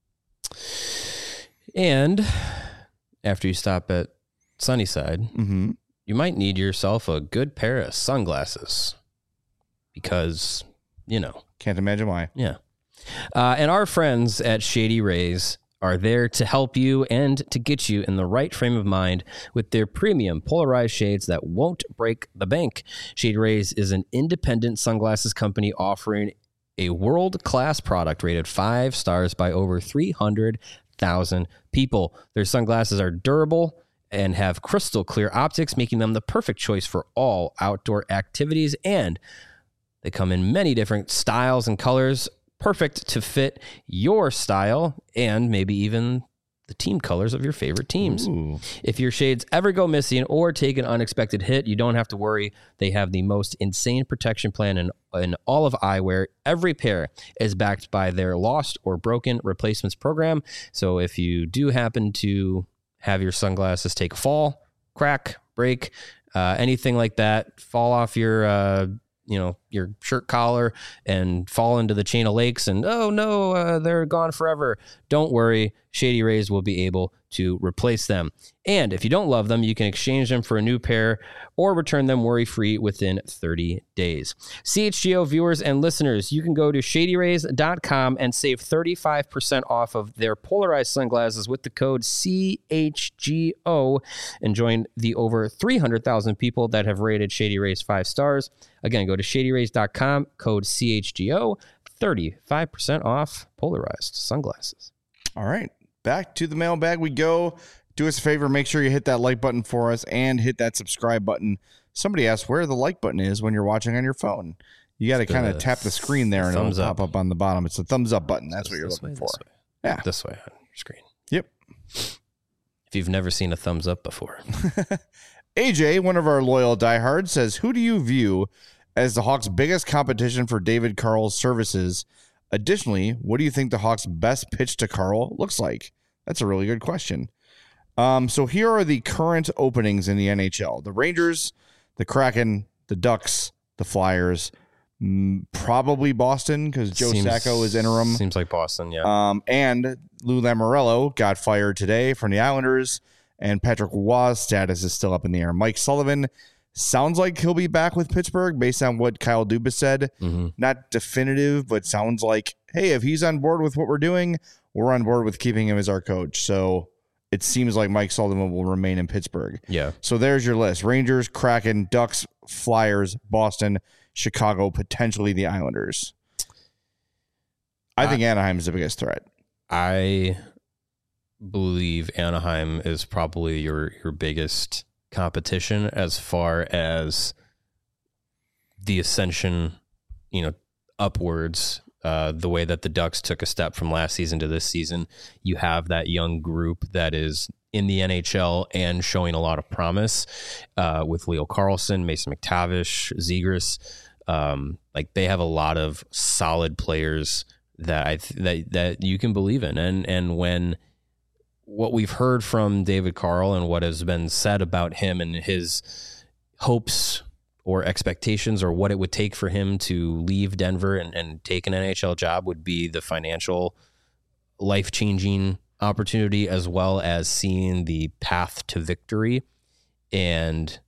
Speaker 2: And after you stop at Sunnyside,
Speaker 1: mm-hmm.
Speaker 2: you might need yourself a good pair of sunglasses because, you know.
Speaker 1: Can't imagine why.
Speaker 2: Yeah. Uh, and our friends at Shady Rays are there to help you and to get you in the right frame of mind with their premium polarized shades that won't break the bank. Shady Rays is an independent sunglasses company offering a world-class product rated five stars by over three hundred thousand people. Their sunglasses are durable and have crystal clear optics, making them the perfect choice for all outdoor activities. And they come in many different styles and colors, perfect to fit your style and maybe even the team colors of your favorite teams.
Speaker 1: Ooh.
Speaker 2: If your shades ever go missing or take an unexpected hit, you don't have to worry. They have the most insane protection plan in, in all of eyewear. Every pair is backed by their lost or broken replacements program. So if you do happen to have your sunglasses take a fall, crack, break, uh, anything like that, fall off your uh, you know, your shirt collar and fall into the chain of lakes and, oh no, uh, they're gone forever. Don't worry. Shady Rays will be able to replace them. And if you don't love them, you can exchange them for a new pair or return them worry-free within thirty days. C H G O viewers and listeners, you can go to shady rays dot com and save thirty-five percent off of their polarized sunglasses with the code C H G O and join the over three hundred thousand people that have rated Shady Rays five stars. Again, go to shady rays dot com, code C H G O, thirty-five percent off polarized sunglasses.
Speaker 1: All right. Back to the mailbag we go. Do us a favor, make sure you hit that like button for us and hit that subscribe button. Somebody asked where the like button is when you're watching on your phone. You got to kind of tap the screen there and it'll pop up on the bottom. It's the thumbs up button. That's what you're looking for.
Speaker 2: Yeah. This way on your screen.
Speaker 1: Yep.
Speaker 2: If you've never seen a thumbs up before.
Speaker 1: A J, one of our loyal diehards, says, who do you view as the Hawks' biggest competition for David Carl's services? Additionally, what do you think the Hawks' best pitch to Carl looks like? That's a really good question. Um, so here are the current openings in the N H L. The Rangers, the Kraken, the Ducks, the Flyers, mm, probably Boston because Joe
Speaker 2: Seems-
Speaker 1: Sacco is interim.
Speaker 2: Seems like Boston, yeah.
Speaker 1: Um, and Lou Lamoriello got fired today from the Islanders, and Patrick Roy's status is still up in the air. Mike Sullivan sounds like he'll be back with Pittsburgh based on what Kyle Dubas said.
Speaker 2: Mm-hmm.
Speaker 1: Not definitive, but sounds like, hey, if he's on board with what we're doing, we're on board with keeping him as our coach. So it seems like Mike Sullivan will remain in Pittsburgh.
Speaker 2: Yeah.
Speaker 1: So there's your list. Rangers, Kraken, Ducks, Flyers, Boston, Chicago, potentially the Islanders. I think uh, Anaheim is the biggest threat.
Speaker 2: I believe Anaheim is probably your, your biggest competition as far as the ascension, you know, upwards. Uh, the way that the Ducks took a step from last season to this season, you have that young group that is in the N H L and showing a lot of promise uh, with Leo Carlsson, Mason McTavish, Zegras. Um, like they have a lot of solid players that I th- that that you can believe in, and and when what we've heard from David Carl and what has been said about him and his hopes or expectations or what it would take for him to leave Denver and, and take an N H L job would be the financial life-changing opportunity as well as seeing the path to victory. And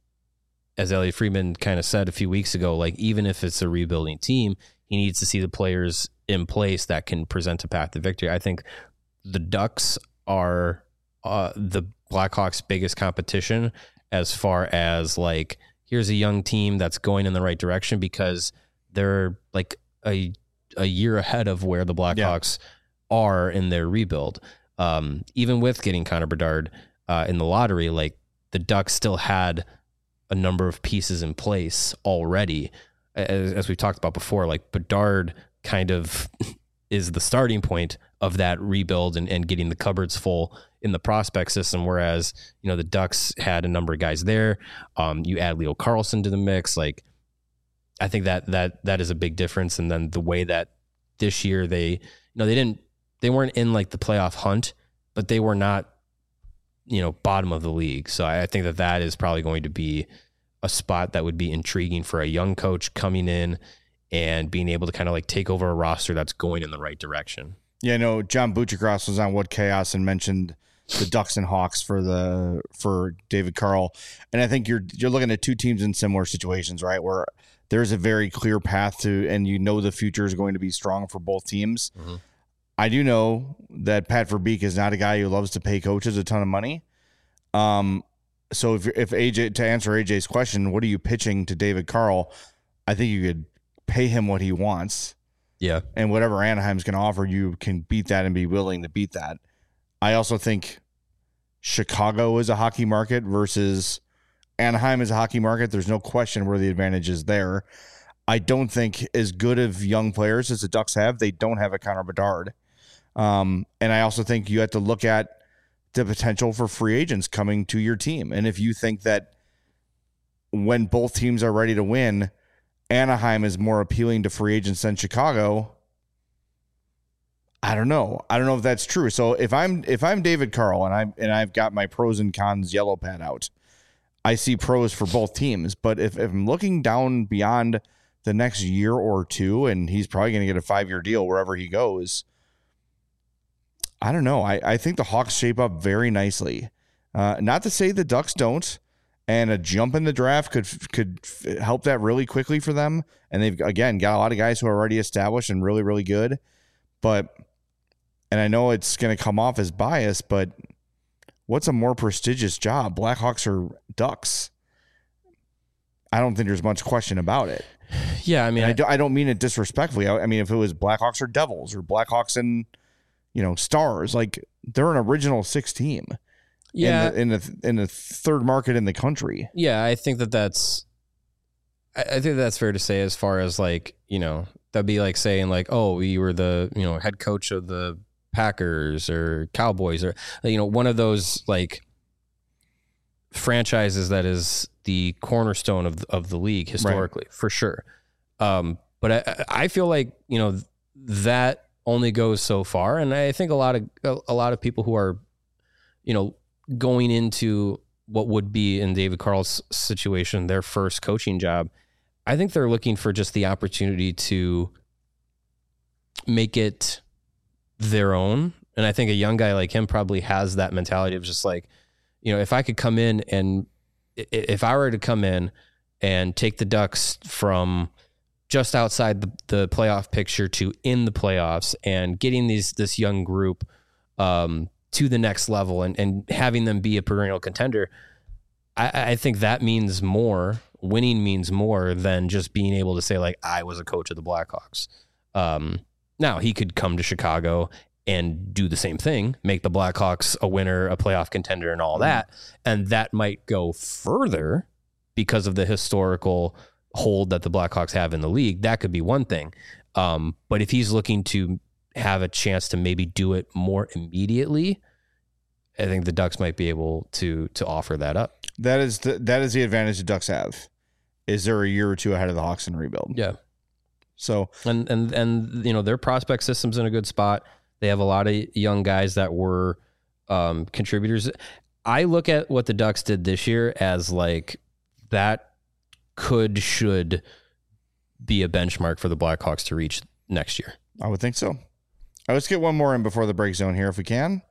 Speaker 2: as Elliot Friedman kind of said a few weeks ago, like even if it's a rebuilding team, he needs to see the players in place that can present a path to victory. I think the Ducks are uh, the Blackhawks' biggest competition as far as like, here's a young team that's going in the right direction because they're like a a year ahead of where the Blackhawks yeah. are in their rebuild. Um, even with getting Connor Bedard uh, in the lottery, like the Ducks still had a number of pieces in place already. As, as we've talked about before, like Bedard kind of is the starting point of that rebuild and, and getting the cupboards full in the prospect system. Whereas, you know, the Ducks had a number of guys there. Um, you add Leo Carlsson to the mix. Like, I think that, that, that is a big difference. And then the way that this year they, you know, they didn't, they weren't in like the playoff hunt, but they were not, you know, bottom of the league. So I, I think that that is probably going to be a spot that would be intriguing for a young coach coming in and being able to kind of like take over a roster that's going in the right direction.
Speaker 1: Yeah, no, John Buchacross was on What Chaos and mentioned the Ducks and Hawks for the for David Carl. And I think you're you're looking at two teams in similar situations, right? Where there's a very clear path to, and you know the future is going to be strong for both teams. Mm-hmm. I do know that Pat Verbeek is not a guy who loves to pay coaches a ton of money. Um, so if if A J, to answer A J's question, what are you pitching to David Carl? I think you could pay him what he wants.
Speaker 2: Yeah.
Speaker 1: And whatever Anaheim's going to offer, you can beat that and be willing to beat that. I also think Chicago is a hockey market versus Anaheim is a hockey market. There's no question where the advantage is there. I don't think as good of young players as the Ducks have, they don't have a Connor Bedard. Um, and I also think you have to look at the potential for free agents coming to your team. And if you think that when both teams are ready to win, Anaheim is more appealing to free agents than Chicago, I don't know. I don't know if that's true. So if I'm if I'm David Carl and I and I've got my pros and cons yellow pad out, I see pros for both teams. But if, if I'm looking down beyond the next year or two, and he's probably going to get a five-year deal wherever he goes, I don't know. I, I think the Hawks shape up very nicely. Uh, not to say the Ducks don't. And a jump in the draft could could help that really quickly for them. And they've, again, got a lot of guys who are already established and really, really good. But, and I know it's going to come off as bias, but what's a more prestigious job, Blackhawks or Ducks? I don't think there's much question about it.
Speaker 2: Yeah, I mean,
Speaker 1: I, do, I don't mean it disrespectfully. I, I mean, if it was Blackhawks or Devils or Blackhawks and, you know, Stars, like they're an original six team.
Speaker 2: Yeah,
Speaker 1: in the, in the in the third market in the country.
Speaker 2: Yeah, I think that that's, I, I think that's fair to say. As far as like, you know, that'd be like saying like, oh, you were the, you know, head coach of the Packers or Cowboys or, you know, one of those like franchises that is the cornerstone of of the league historically, right. for sure. Um, but I, I feel like, you know, that only goes so far. And I think a lot of, a, a lot of people who are, you know, going into what would be in David Carl's situation, their first coaching job, I think they're looking for just the opportunity to make it their own. And I think a young guy like him probably has that mentality of just like, you know, if I could come in and if I were to come in and take the Ducks from just outside the, the playoff picture to in the playoffs and getting these, this young group um, to the next level and, and having them be a perennial contender, I, I think that means more. Winning means more than just being able to say like, I was a coach of the Blackhawks. Um, now he could come to Chicago and do the same thing, make the Blackhawks a winner, a playoff contender and all that. And that might go further because of the historical hold that the Blackhawks have in the league. That could be one thing. Um, but if he's looking to have a chance to maybe do it more immediately, I think the Ducks might be able to to offer that up.
Speaker 1: That is the that is the advantage the Ducks have. Is they're a year or two ahead of the Hawks in rebuild.
Speaker 2: Yeah.
Speaker 1: So
Speaker 2: and and and you know, their prospect system's in a good spot. They have a lot of young guys that were um, contributors. I look at what the Ducks did this year as like that could, should be a benchmark for the Blackhawks to reach next year.
Speaker 1: I would think so. All right, let's get one more in before the break zone here if we can.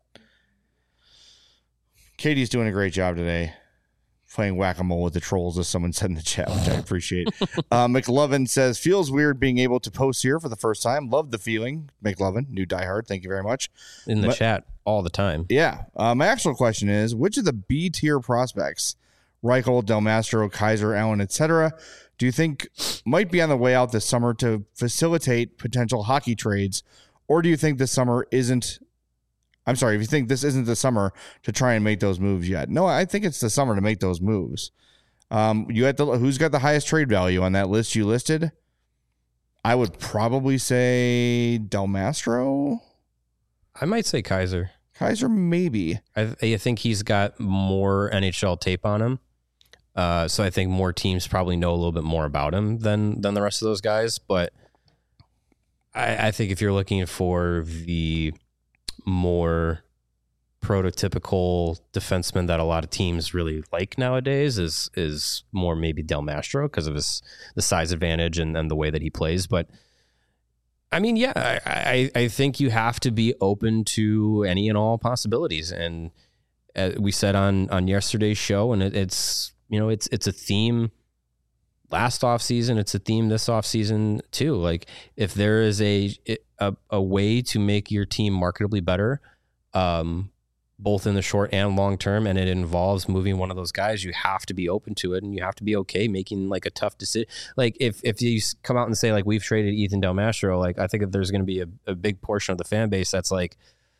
Speaker 1: Katie's doing a great job today. Playing whack-a-mole with the trolls, as someone said in the chat, which I appreciate. uh, McLovin says, feels weird being able to post here for the first time. Love the feeling. McLovin, new diehard. Thank you very much.
Speaker 2: In the
Speaker 1: but,
Speaker 2: chat all the time.
Speaker 1: Yeah. Uh, my actual question is, which of the B-tier prospects, Reichel, Del Mastro, Kaiser, Allen, et cetera, do you think might be on the way out this summer to facilitate potential hockey trades? Or do you think this summer isn't I'm sorry, if you think this isn't the summer to try and make those moves yet. No, I think it's the summer to make those moves. Um, you got the who's got the highest trade value on that list you listed? I would probably say Del Mastro.
Speaker 2: I might say Kaiser.
Speaker 1: Kaiser, maybe.
Speaker 2: I, I think he's got more N H L tape on him. Uh, so I think more teams probably know a little bit more about him than than the rest of those guys. But I, I think if you're looking for the more prototypical defenseman that a lot of teams really like nowadays is is more maybe Del Mastro because of his the size advantage and, and the way that he plays. But I mean, yeah, I, I, I think you have to be open to any and all possibilities. And uh, we said on on yesterday's show, and it, it's you know it's it's a theme last offseason, it's a theme this offseason too. Like if there is a, a a way to make your team marketably better, um, both in the short and long term, and it involves moving one of those guys, you have to be open to it, and you have to be okay making like a tough decision. Like if if you come out and say like we've traded Ethan Del Mastro, like I think that there's going to be a, a big portion of the fan base that's like,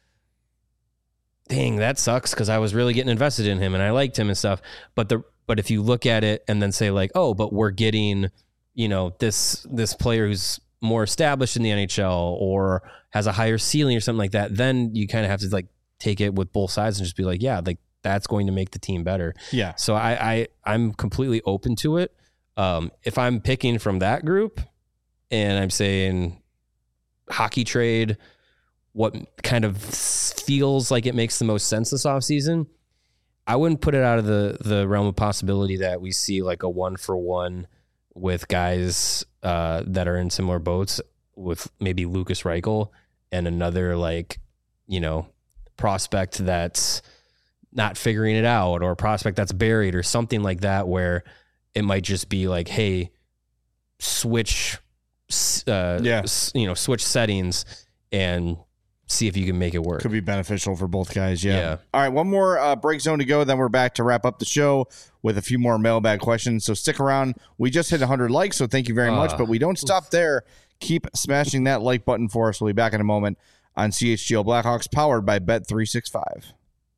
Speaker 2: dang, that sucks because I was really getting invested in him and I liked him and stuff. But the But if you look at it and then say like, oh, but we're getting, you know, this this player who's more established in the N H L or has a higher ceiling or something like that, then you kind of have to like take it with both sides and just be like, yeah, like that's going to make the team better.
Speaker 1: Yeah.
Speaker 2: So I, I I'm completely open to it. Um, if I'm picking from that group and I'm saying hockey trade, what kind of feels like it makes the most sense this offseason, I wouldn't put it out of the, the realm of possibility that we see like a one for one with guys uh, that are in similar boats with maybe Lucas Reichel and another like, you know, prospect that's not figuring it out or a prospect that's buried or something like that, where it might just be like, hey, switch, uh,
Speaker 1: yeah.
Speaker 2: you know, switch settings and see if you can make it work.
Speaker 1: Could be beneficial for both guys. Yeah.
Speaker 2: Yeah.
Speaker 1: All right. One more uh, break zone to go. Then we're back to wrap up the show with a few more mailbag questions. So stick around. We just hit one hundred likes, so thank you very uh, much. But we don't stop there. Keep smashing that like button for us. We'll be back in a moment on C H G O Blackhawks, powered by Bet three sixty-five.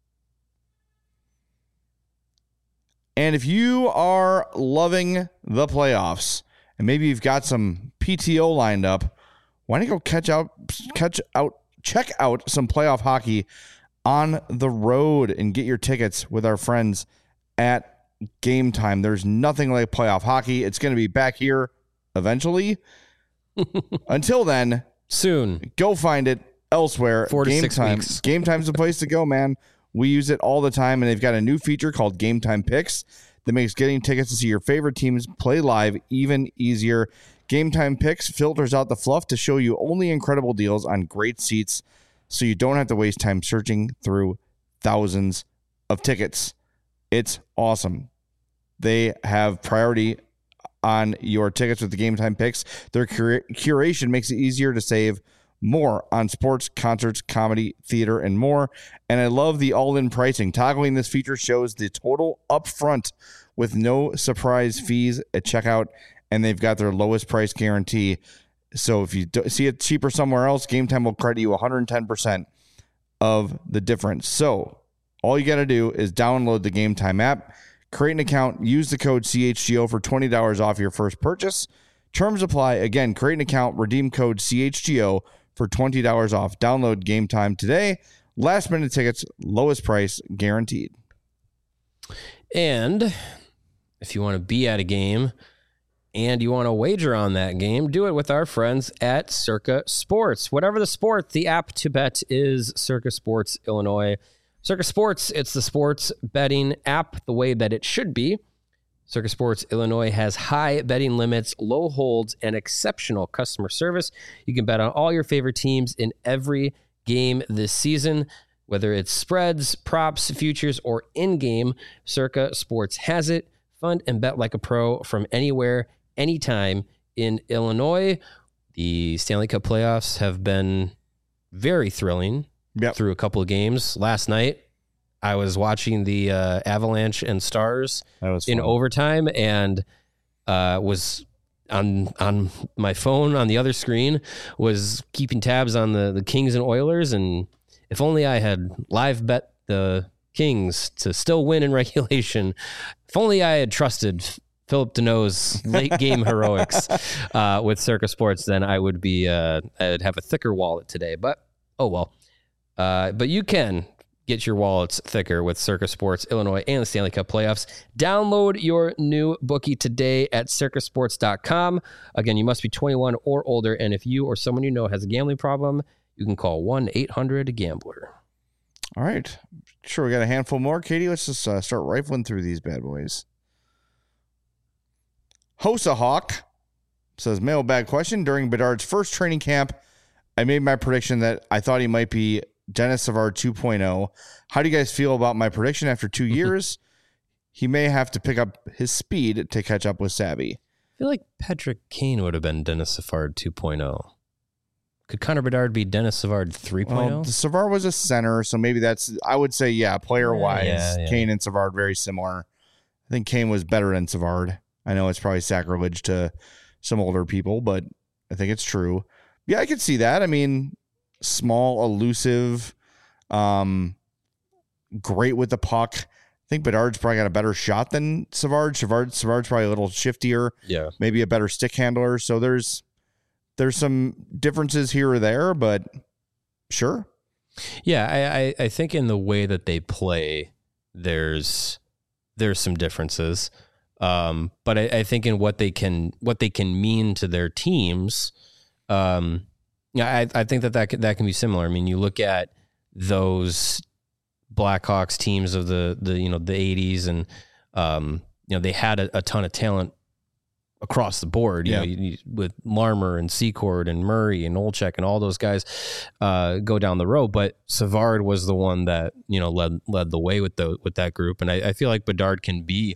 Speaker 1: And if you are loving the playoffs and maybe you've got some P T O lined up, why don't you go catch out, catch out, check out some playoff hockey on the road and get your tickets with our friends at Game Time. There's nothing like playoff hockey. It's going to be back here eventually. Until then,
Speaker 2: soon.
Speaker 1: Go find it elsewhere.
Speaker 2: Four to
Speaker 1: Game
Speaker 2: six
Speaker 1: Time.
Speaker 2: weeks.
Speaker 1: Game Time's the place to go, man. We use it all the time, and they've got a new feature called Game Time Picks that makes getting tickets to see your favorite teams play live even easier. Game Time Picks filters out the fluff to show you only incredible deals on great seats, so you don't have to waste time searching through thousands of tickets. It's awesome. They have priority on your tickets with the Game Time Picks. Their cura- curation makes it easier to save more on sports, concerts, comedy, theater, and more. And I love the all-in pricing. Toggling this feature shows the total upfront with no surprise fees at checkout, and they've got their lowest price guarantee. So if you do see it cheaper somewhere else, Game Time will credit you one hundred ten percent of the difference. So all you got to do is download the Game Time app, create an account, use the code C H G O for twenty dollars off your first purchase. Terms apply. Again, create an account, redeem code C H G O for twenty dollars off. Download Game Time today. Last minute tickets, lowest price guaranteed.
Speaker 2: And if you want to be at a game and you want to wager on that game, do it with our friends at Circa Sports. Whatever the sport, the app to bet is Circa Sports Illinois. Circa Sports, it's the sports betting app the way that it should be. Circa Sports Illinois has high betting limits, low holds, and exceptional customer service. You can bet on all your favorite teams in every game this season, whether it's spreads, props, futures, or in-game. Circa Sports has it. Fund and bet like a pro from anywhere, anytime in Illinois. The Stanley Cup playoffs have been very thrilling
Speaker 1: Yep.
Speaker 2: through a couple of games. Last night, I was watching the uh, Avalanche and Stars
Speaker 1: That was
Speaker 2: in
Speaker 1: fun.
Speaker 2: overtime, and uh, was on on my phone on the other screen, was keeping tabs on the, the Kings and Oilers. And if only I had live bet the Kings to still win in regulation. If only I had trusted Philip Deneau's late game heroics uh, with Circa Sports, then I would be uh, I'd have a thicker wallet today. But oh well. Uh, but you can get your wallets thicker with Circa Sports Illinois and the Stanley Cup playoffs. Download your new bookie today at circa sports dot com. Again, you must be twenty-one or older, and if you or someone you know has a gambling problem, you can call one eight hundred gambler.
Speaker 1: All right. Sure, we got a handful more. Katie, let's just uh, start rifling through these bad boys. Hosa Hawk says, mailbag question. During Bedard's first training camp, I made my prediction that I thought he might be Dennis Savard two point oh. How do you guys feel about my prediction after two years? He may have to pick up his speed to catch up with Savvy.
Speaker 2: I feel like Patrick Kane would have been Dennis Savard two point oh. Could Connor Bedard be Dennis Savard three point oh?
Speaker 1: Well, Savard was a center, so maybe that's, I would say, yeah, player-wise,
Speaker 2: Yeah, yeah.
Speaker 1: Kane and Savard very similar. I think Kane was better than Savard. I know it's probably sacrilege to some older people, but I think it's true. Yeah, I could see that. I mean, small, elusive, um, great with the puck. I think Bedard's probably got a better shot than Savard. Savard Savard's probably a little shiftier,
Speaker 2: Yeah.
Speaker 1: maybe a better stick handler. So there's there's some differences here or there, but sure.
Speaker 2: Yeah, I, I, I think in the way that they play, there's there's some differences. Um, but I, I think in what they can what they can mean to their teams, um, yeah, I, I think that that can, that can be similar. I mean, you look at those Blackhawks teams of the the you know the eighties, and um, you know they had a, a ton of talent across the board. You
Speaker 1: Yeah.
Speaker 2: know, you, you, with Larmer and Secord and Murray and Olczyk and all those guys uh, go down the road. But Savard was the one that you know led led the way with the with that group, and I, I feel like Bedard can be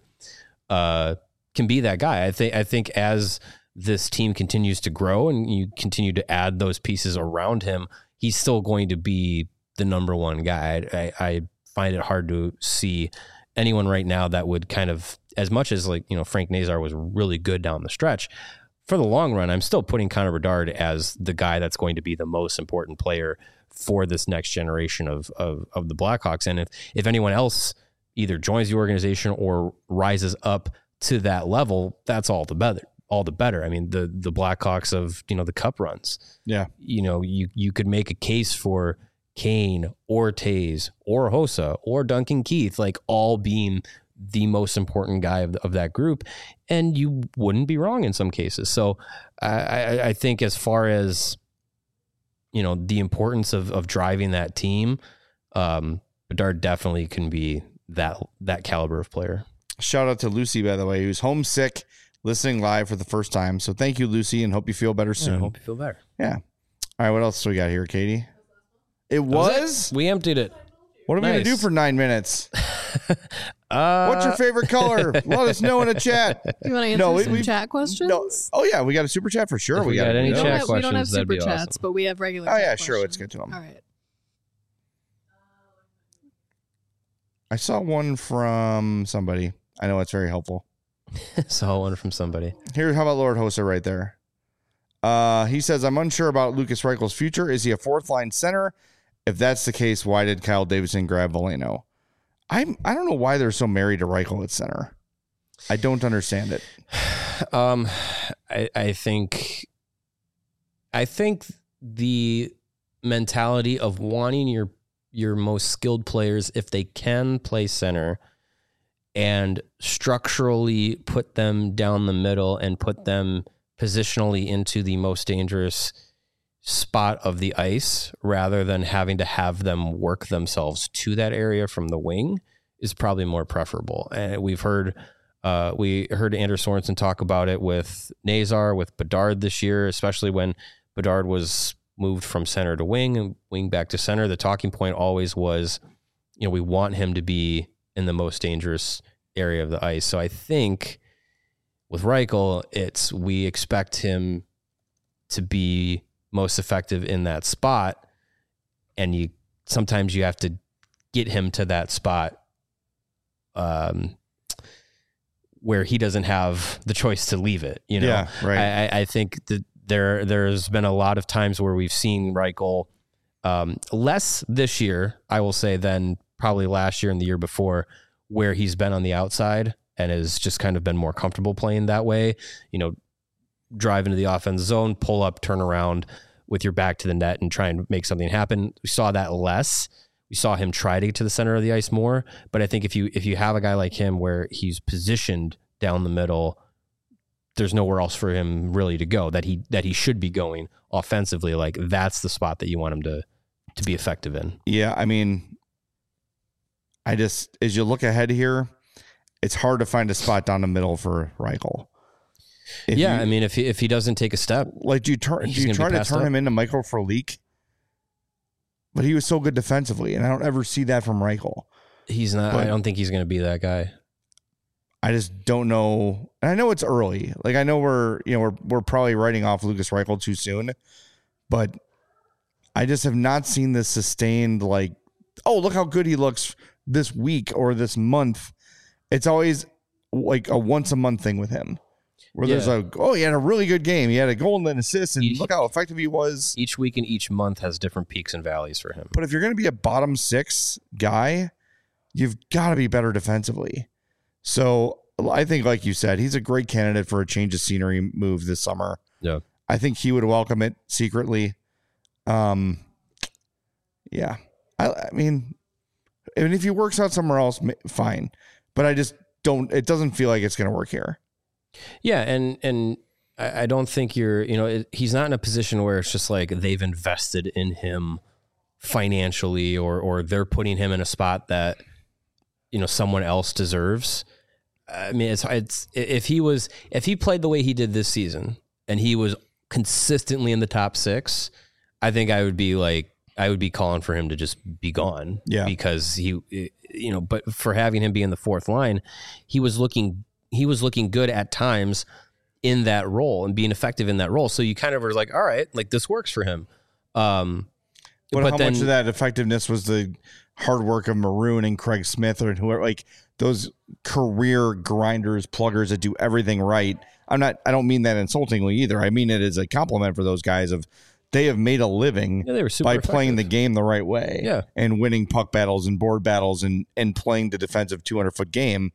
Speaker 2: uh, can be that guy. I think I think as this team continues to grow and you continue to add those pieces around him, he's still going to be the number one guy. I, I find it hard to see anyone right now that would kind of, as much as like, you know, Frank Nazar was really good down the stretch, for the long run, I'm still putting Connor Bedard as the guy that's going to be the most important player for this next generation of, of, of the Blackhawks. And if, if anyone else either joins the organization or rises up to that level, that's all the better. all the better. I mean, the the Blackhawks of, you know, the cup runs.
Speaker 1: Yeah.
Speaker 2: You know, you you could make a case for Kane or Taves or Hossa or Duncan Keith, like all being the most important guy of, the, of that group, and you wouldn't be wrong in some cases. So I, I, I think as far as, you know, the importance of, of driving that team, um, Bedard definitely can be that, that caliber of player.
Speaker 1: Shout out to Lucy, by the way, who's homesick, listening live for the first time. So thank you, Lucy, and hope you feel better soon.
Speaker 2: Yeah, I hope you feel better.
Speaker 1: Yeah. All right, what else do we got here, Katie? It was?
Speaker 2: was it? We emptied it.
Speaker 1: What are we
Speaker 2: Nice.
Speaker 1: going to do for nine minutes?
Speaker 2: Uh,
Speaker 1: What's your favorite color? Let us know in the chat.
Speaker 3: Do you want to answer
Speaker 1: No, we-
Speaker 3: some
Speaker 1: we-
Speaker 3: chat questions?
Speaker 1: No. Oh, yeah, we got a super chat for sure.
Speaker 2: If we
Speaker 1: got
Speaker 2: got any
Speaker 3: we, don't
Speaker 2: chat
Speaker 3: have, we don't have
Speaker 2: questions, that'd
Speaker 3: super
Speaker 2: be
Speaker 3: chats,
Speaker 2: awesome.
Speaker 3: but we have regular.
Speaker 1: Oh,
Speaker 3: chat
Speaker 1: yeah, sure. Let's
Speaker 3: questions.
Speaker 1: get to them.
Speaker 3: All right.
Speaker 1: I saw one from somebody. I know it's very helpful.
Speaker 2: Saw one from somebody.
Speaker 1: Here, how about Lord Hossa right there? Uh, he says, I'm unsure about Lucas Reichel's future. Is he a fourth line center? If that's the case, why did Kyle Davidson grab Veleno? I'm, I don't know why they're so married to Reichel at center. I don't understand it.
Speaker 2: Um, I, I think, I think the mentality of wanting your your most skilled players, if they can play center, and structurally put them down the middle and put them positionally into the most dangerous spot of the ice, rather than having to have them work themselves to that area from the wing, is probably more preferable. And we've heard, uh, we heard Anders Sorensen talk about it with Nazar, with Bedard this year, especially when Bedard was moved from center to wing and wing back to center. The talking point always was, you know, we want him to be in the most dangerous area of the ice. So I think with Reichel, it's, we expect him to be most effective in that spot. And you, sometimes you have to get him to that spot, um, where he doesn't have the choice to leave it. You know,
Speaker 1: Yeah, right.
Speaker 2: I, I- I think that there, there's been a lot of times where we've seen Reichel, um, less this year, I will say, than probably last year and the year before, where he's been on the outside and has just kind of been more comfortable playing that way, you know, drive into the offense zone, pull up, turn around with your back to the net and try and make something happen. We saw that less. We saw him try to get to the center of the ice more, but I think if you, if you have a guy like him where he's positioned down the middle, there's nowhere else for him really to go that he, that he should be going offensively. Like, that's the spot that you want him to, to be effective in.
Speaker 1: Yeah, I mean, I just, as you look ahead here, it's hard to find a spot down the middle for Reichel. If
Speaker 2: yeah,
Speaker 1: you-
Speaker 2: I mean, if he, if he doesn't take a step,
Speaker 1: like, do you turn?
Speaker 2: He's
Speaker 1: Do you
Speaker 2: gonna be
Speaker 1: try to
Speaker 2: passed
Speaker 1: turn
Speaker 2: up.
Speaker 1: him into Michael Frolik? But he was so good defensively, and I don't ever see that from Reichel.
Speaker 2: he's not.
Speaker 1: But-
Speaker 2: I don't think he's going to be that guy.
Speaker 1: I just don't know. And I know it's early. Like, I know we're, you know, we're we're probably writing off Lucas Reichel too soon, but I just have not seen this sustained, like, oh, look how good he looks this week or this month. It's always like a once a month thing with him, where there's
Speaker 2: Yeah.
Speaker 1: a, oh, he had a really good game. He had a goal and an assist, and
Speaker 2: He-
Speaker 1: look how effective he was.
Speaker 2: Each week and each month has different peaks and valleys for him.
Speaker 1: But if you're going to be a bottom six guy, you've got to be better defensively. So I think, like you said, he's a great candidate for a change of scenery move this summer.
Speaker 2: Yeah.
Speaker 1: I think he would welcome it secretly. Um, yeah. I, I mean, and if he works out somewhere else, ma- fine. But I just don't, it doesn't feel like it's going to work here.
Speaker 2: Yeah, and and I, I don't think you're. You know, it, he's not in a position where it's just like they've invested in him financially, or or they're putting him in a spot that, you know, someone else deserves. I mean, it's it's if he was if he played the way he did this season and he was consistently in the top six, I think I would be like I would be calling for him to just be gone.
Speaker 1: Yeah.
Speaker 2: Because he, you know, but for having him be in the fourth line, he was looking he was looking good at times in that role and being effective in that role. So you kind of were like, all right, like this works for him. Um,
Speaker 1: But,
Speaker 2: but
Speaker 1: how
Speaker 2: then
Speaker 1: much of that effectiveness was the hard work of Maroon and Craig Smith or whoever, like those career grinders, pluggers that do everything right? I'm not, I don't mean that insultingly either. I mean it as a compliment for those guys of they have made a living
Speaker 2: yeah, they were super
Speaker 1: by
Speaker 2: effective.
Speaker 1: playing the game the right way,
Speaker 2: Yeah.
Speaker 1: and winning puck battles and board battles and, and playing the defensive two hundred foot game.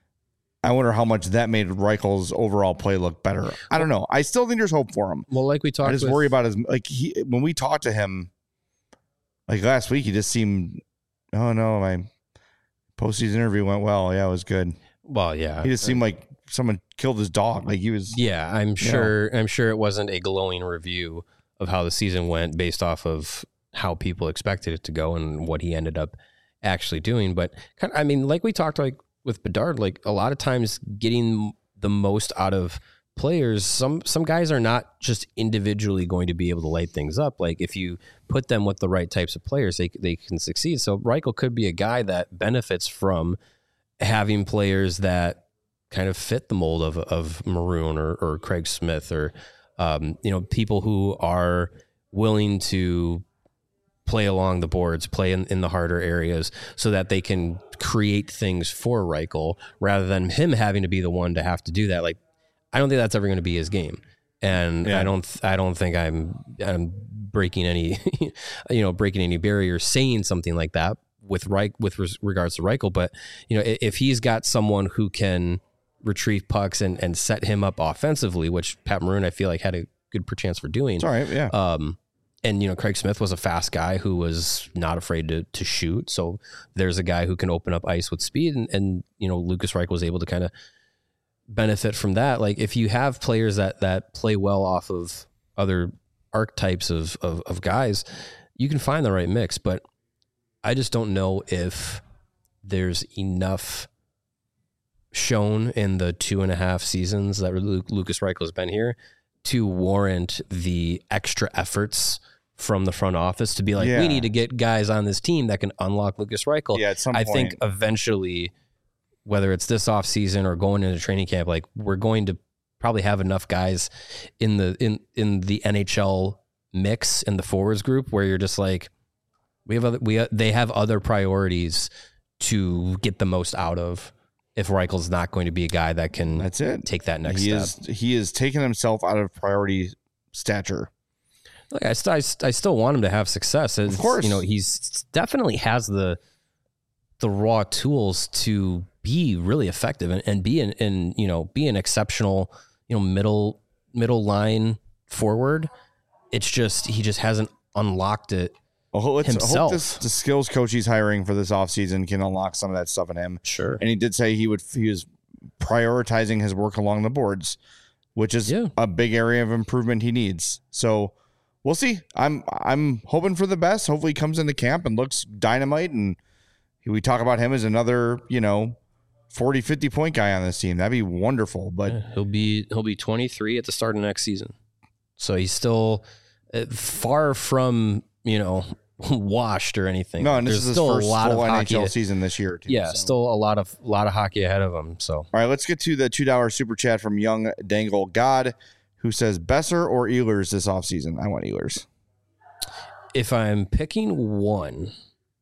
Speaker 1: I wonder how much that made Reichel's overall play look better. I don't know. I still think there's hope for him.
Speaker 2: Well, like we talked
Speaker 1: I just
Speaker 2: with,
Speaker 1: worry about his, like he, when we talked to him like last week, he just seemed, oh no, my Postseason interview went well. Yeah, it was good.
Speaker 2: Well, yeah.
Speaker 1: He just seemed like someone killed his dog. Like he was.
Speaker 2: Yeah, I'm sure. I'm sure it wasn't a glowing review of how the season went based off of how people expected it to go and what he ended up actually doing. But kind of, I mean, like we talked like with Bedard, like a lot of times getting the most out of players, some some guys are not just individually going to be able to light things up. Like if you put them with the right types of players, they they can succeed. So Reichel could be a guy that benefits from having players that kind of fit the mold of of Maroon or, or Craig Smith or um, you know, people who are willing to play along the boards, play in, in the harder areas so that they can create things for Reichel rather than him having to be the one to have to do that. Like, I don't think that's ever going to be his game. And yeah. I don't, I don't think I'm, I'm breaking any, you know, breaking any barriers saying something like that with Reich, with res- regards to Reichel. But, you know, if he's got someone who can retrieve pucks and, and set him up offensively, which Pat Maroon, I feel like had a good chance for doing.
Speaker 1: It's all right. Yeah.
Speaker 2: Um, And, you know, Craig Smith was a fast guy who was not afraid to to shoot. So there's a guy who can open up ice with speed. And, and you know, Lucas Reichel was able to kind of benefit from that. Like, if you have players that that play well off of other archetypes of, of, of guys, you can find the right mix. But I just don't know if there's enough shown in the two and a half seasons that Lucas Reichel has been here to warrant the extra efforts from the front office to be like,
Speaker 1: yeah.
Speaker 2: we need to get guys on this team that can unlock Lucas Reichel.
Speaker 1: Yeah, at some
Speaker 2: I
Speaker 1: point.
Speaker 2: think eventually, whether it's this off season or going into training camp, like we're going to probably have enough guys in the in in the N H L mix in the forwards group where you're just like, we have other, we they have other priorities to get the most out of. If Reichel's not going to be a guy that can
Speaker 1: That's it.
Speaker 2: take that next
Speaker 1: he
Speaker 2: step.
Speaker 1: Is, he is taking himself out of priority stature.
Speaker 2: Like I, st- I, st- I still want him to have success. It's,
Speaker 1: Of course.
Speaker 2: You know, he's definitely has the the raw tools to be really effective and, and be an and you know be an exceptional you know middle middle line forward. It's just he just hasn't unlocked it.
Speaker 1: Well, let's
Speaker 2: himself.
Speaker 1: hope this, the skills coach he's hiring for this offseason can unlock some of that stuff in him.
Speaker 2: Sure.
Speaker 1: And he did say he would he was prioritizing his work along the boards, which is
Speaker 2: Yeah.
Speaker 1: a big area of improvement he needs. So we'll see. I'm I'm hoping for the best. Hopefully he comes into camp and looks dynamite, and we talk about him as another, you know, forty, fifty point guy on this team. That'd be wonderful. But
Speaker 2: Yeah, he'll be he'll be twenty-three at the start of next season. So he's still uh, far from, you know, washed or anything.
Speaker 1: no, and this
Speaker 2: There's
Speaker 1: is his
Speaker 2: still
Speaker 1: first
Speaker 2: a lot
Speaker 1: full
Speaker 2: of
Speaker 1: N H L
Speaker 2: hockey.
Speaker 1: season this year. Too,
Speaker 2: Yeah,
Speaker 1: so.
Speaker 2: still a lot of lot of hockey ahead of him. So
Speaker 1: All right, let's get to the two dollar super chat from Young Dangle God, who says Besser or Ehlers this offseason. I want Ehlers.
Speaker 2: if I'm picking one,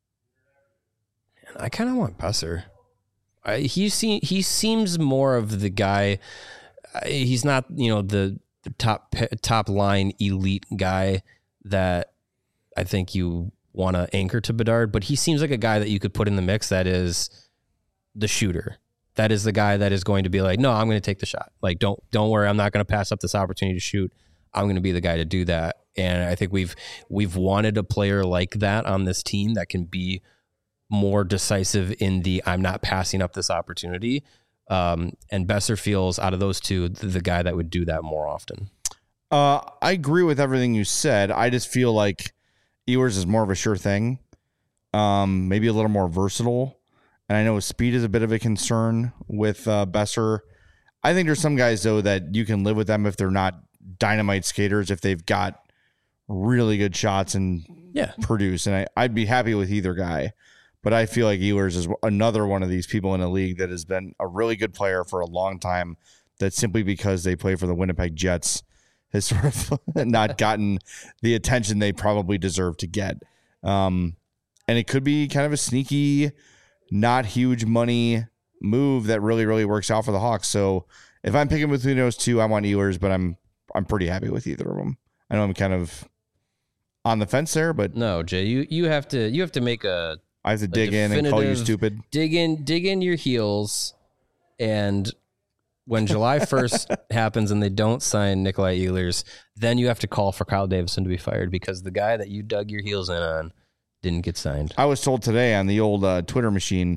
Speaker 2: I kind of want Besser. I, he see, he seems more of the guy. He's not, you know, the, the top top line elite guy that I think you want to anchor to Bedard, but he seems like a guy that you could put in the mix that is the shooter. That is the guy that is going to be like, no, I'm going to take the shot. Like, don't don't worry, I'm not going to pass up this opportunity to shoot. I'm going to be the guy to do that. And I think we've we've wanted a player like that on this team that can be more decisive in the I'm not passing up this opportunity. Um, and Besser feels out of those two the, the guy that would do that more often.
Speaker 1: Uh, I agree with everything you said. I just feel like Ehlers is more of a sure thing, um, maybe a little more versatile. And I know speed is a bit of a concern with uh, Besser. I think there's some guys, though, that you can live with them if they're not dynamite skaters, if they've got really good shots and
Speaker 2: Yeah.
Speaker 1: produce. And I, I'd be happy with either guy. But I feel like Ehlers is another one of these people in the league that has been a really good player for a long time, that simply because they play for the Winnipeg Jets has sort of not gotten the attention they probably deserve to get. Um, and it could be kind of a sneaky, not huge money move that really, really works out for the Hawks. So if I'm picking between those two, I want Ehlers, but I'm I'm pretty happy with either of them. I know I'm kind of on the fence there, but
Speaker 2: No, Jay, you, you have to you have to make a
Speaker 1: I have to dig in and call you
Speaker 2: definitive-
Speaker 1: stupid.
Speaker 2: dig in dig in your heels, and when July first happens and they don't sign Nikolai Ehlers, then you have to call for Kyle Davidson to be fired because the guy that you dug your heels in on didn't get signed.
Speaker 1: I was told today on the old uh, Twitter machine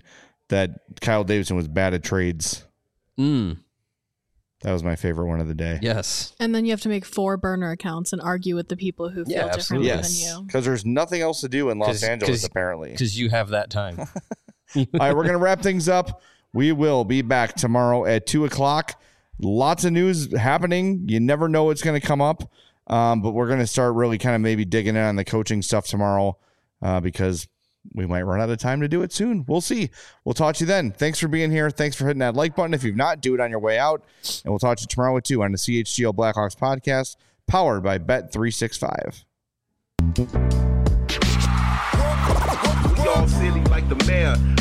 Speaker 1: that Kyle Davidson was bad at trades.
Speaker 2: Mm.
Speaker 1: That was my favorite one of the day.
Speaker 2: Yes.
Speaker 3: And then you have to make four burner accounts and argue with the people who feel
Speaker 2: Yeah,
Speaker 3: differently
Speaker 1: Yes,
Speaker 3: than you.
Speaker 1: because there's nothing else to do in Los
Speaker 2: 'Cause-
Speaker 1: Angeles
Speaker 2: 'cause-
Speaker 1: apparently.
Speaker 2: Because you have that time.
Speaker 1: All right, we're gonna wrap things up. We will be back tomorrow at two o'clock. Lots of news happening. You never know what's going to come up, um, but we're going to start really kind of maybe digging in on the coaching stuff tomorrow uh, because we might run out of time to do it soon. We'll see. We'll talk to you then. Thanks for being here. Thanks for hitting that like button. If you've not, do it on your way out. And we'll talk to you tomorrow at two on the C H G O Blackhawks podcast, powered by Bet three sixty-five.
Speaker 4: We all silly like the mayor.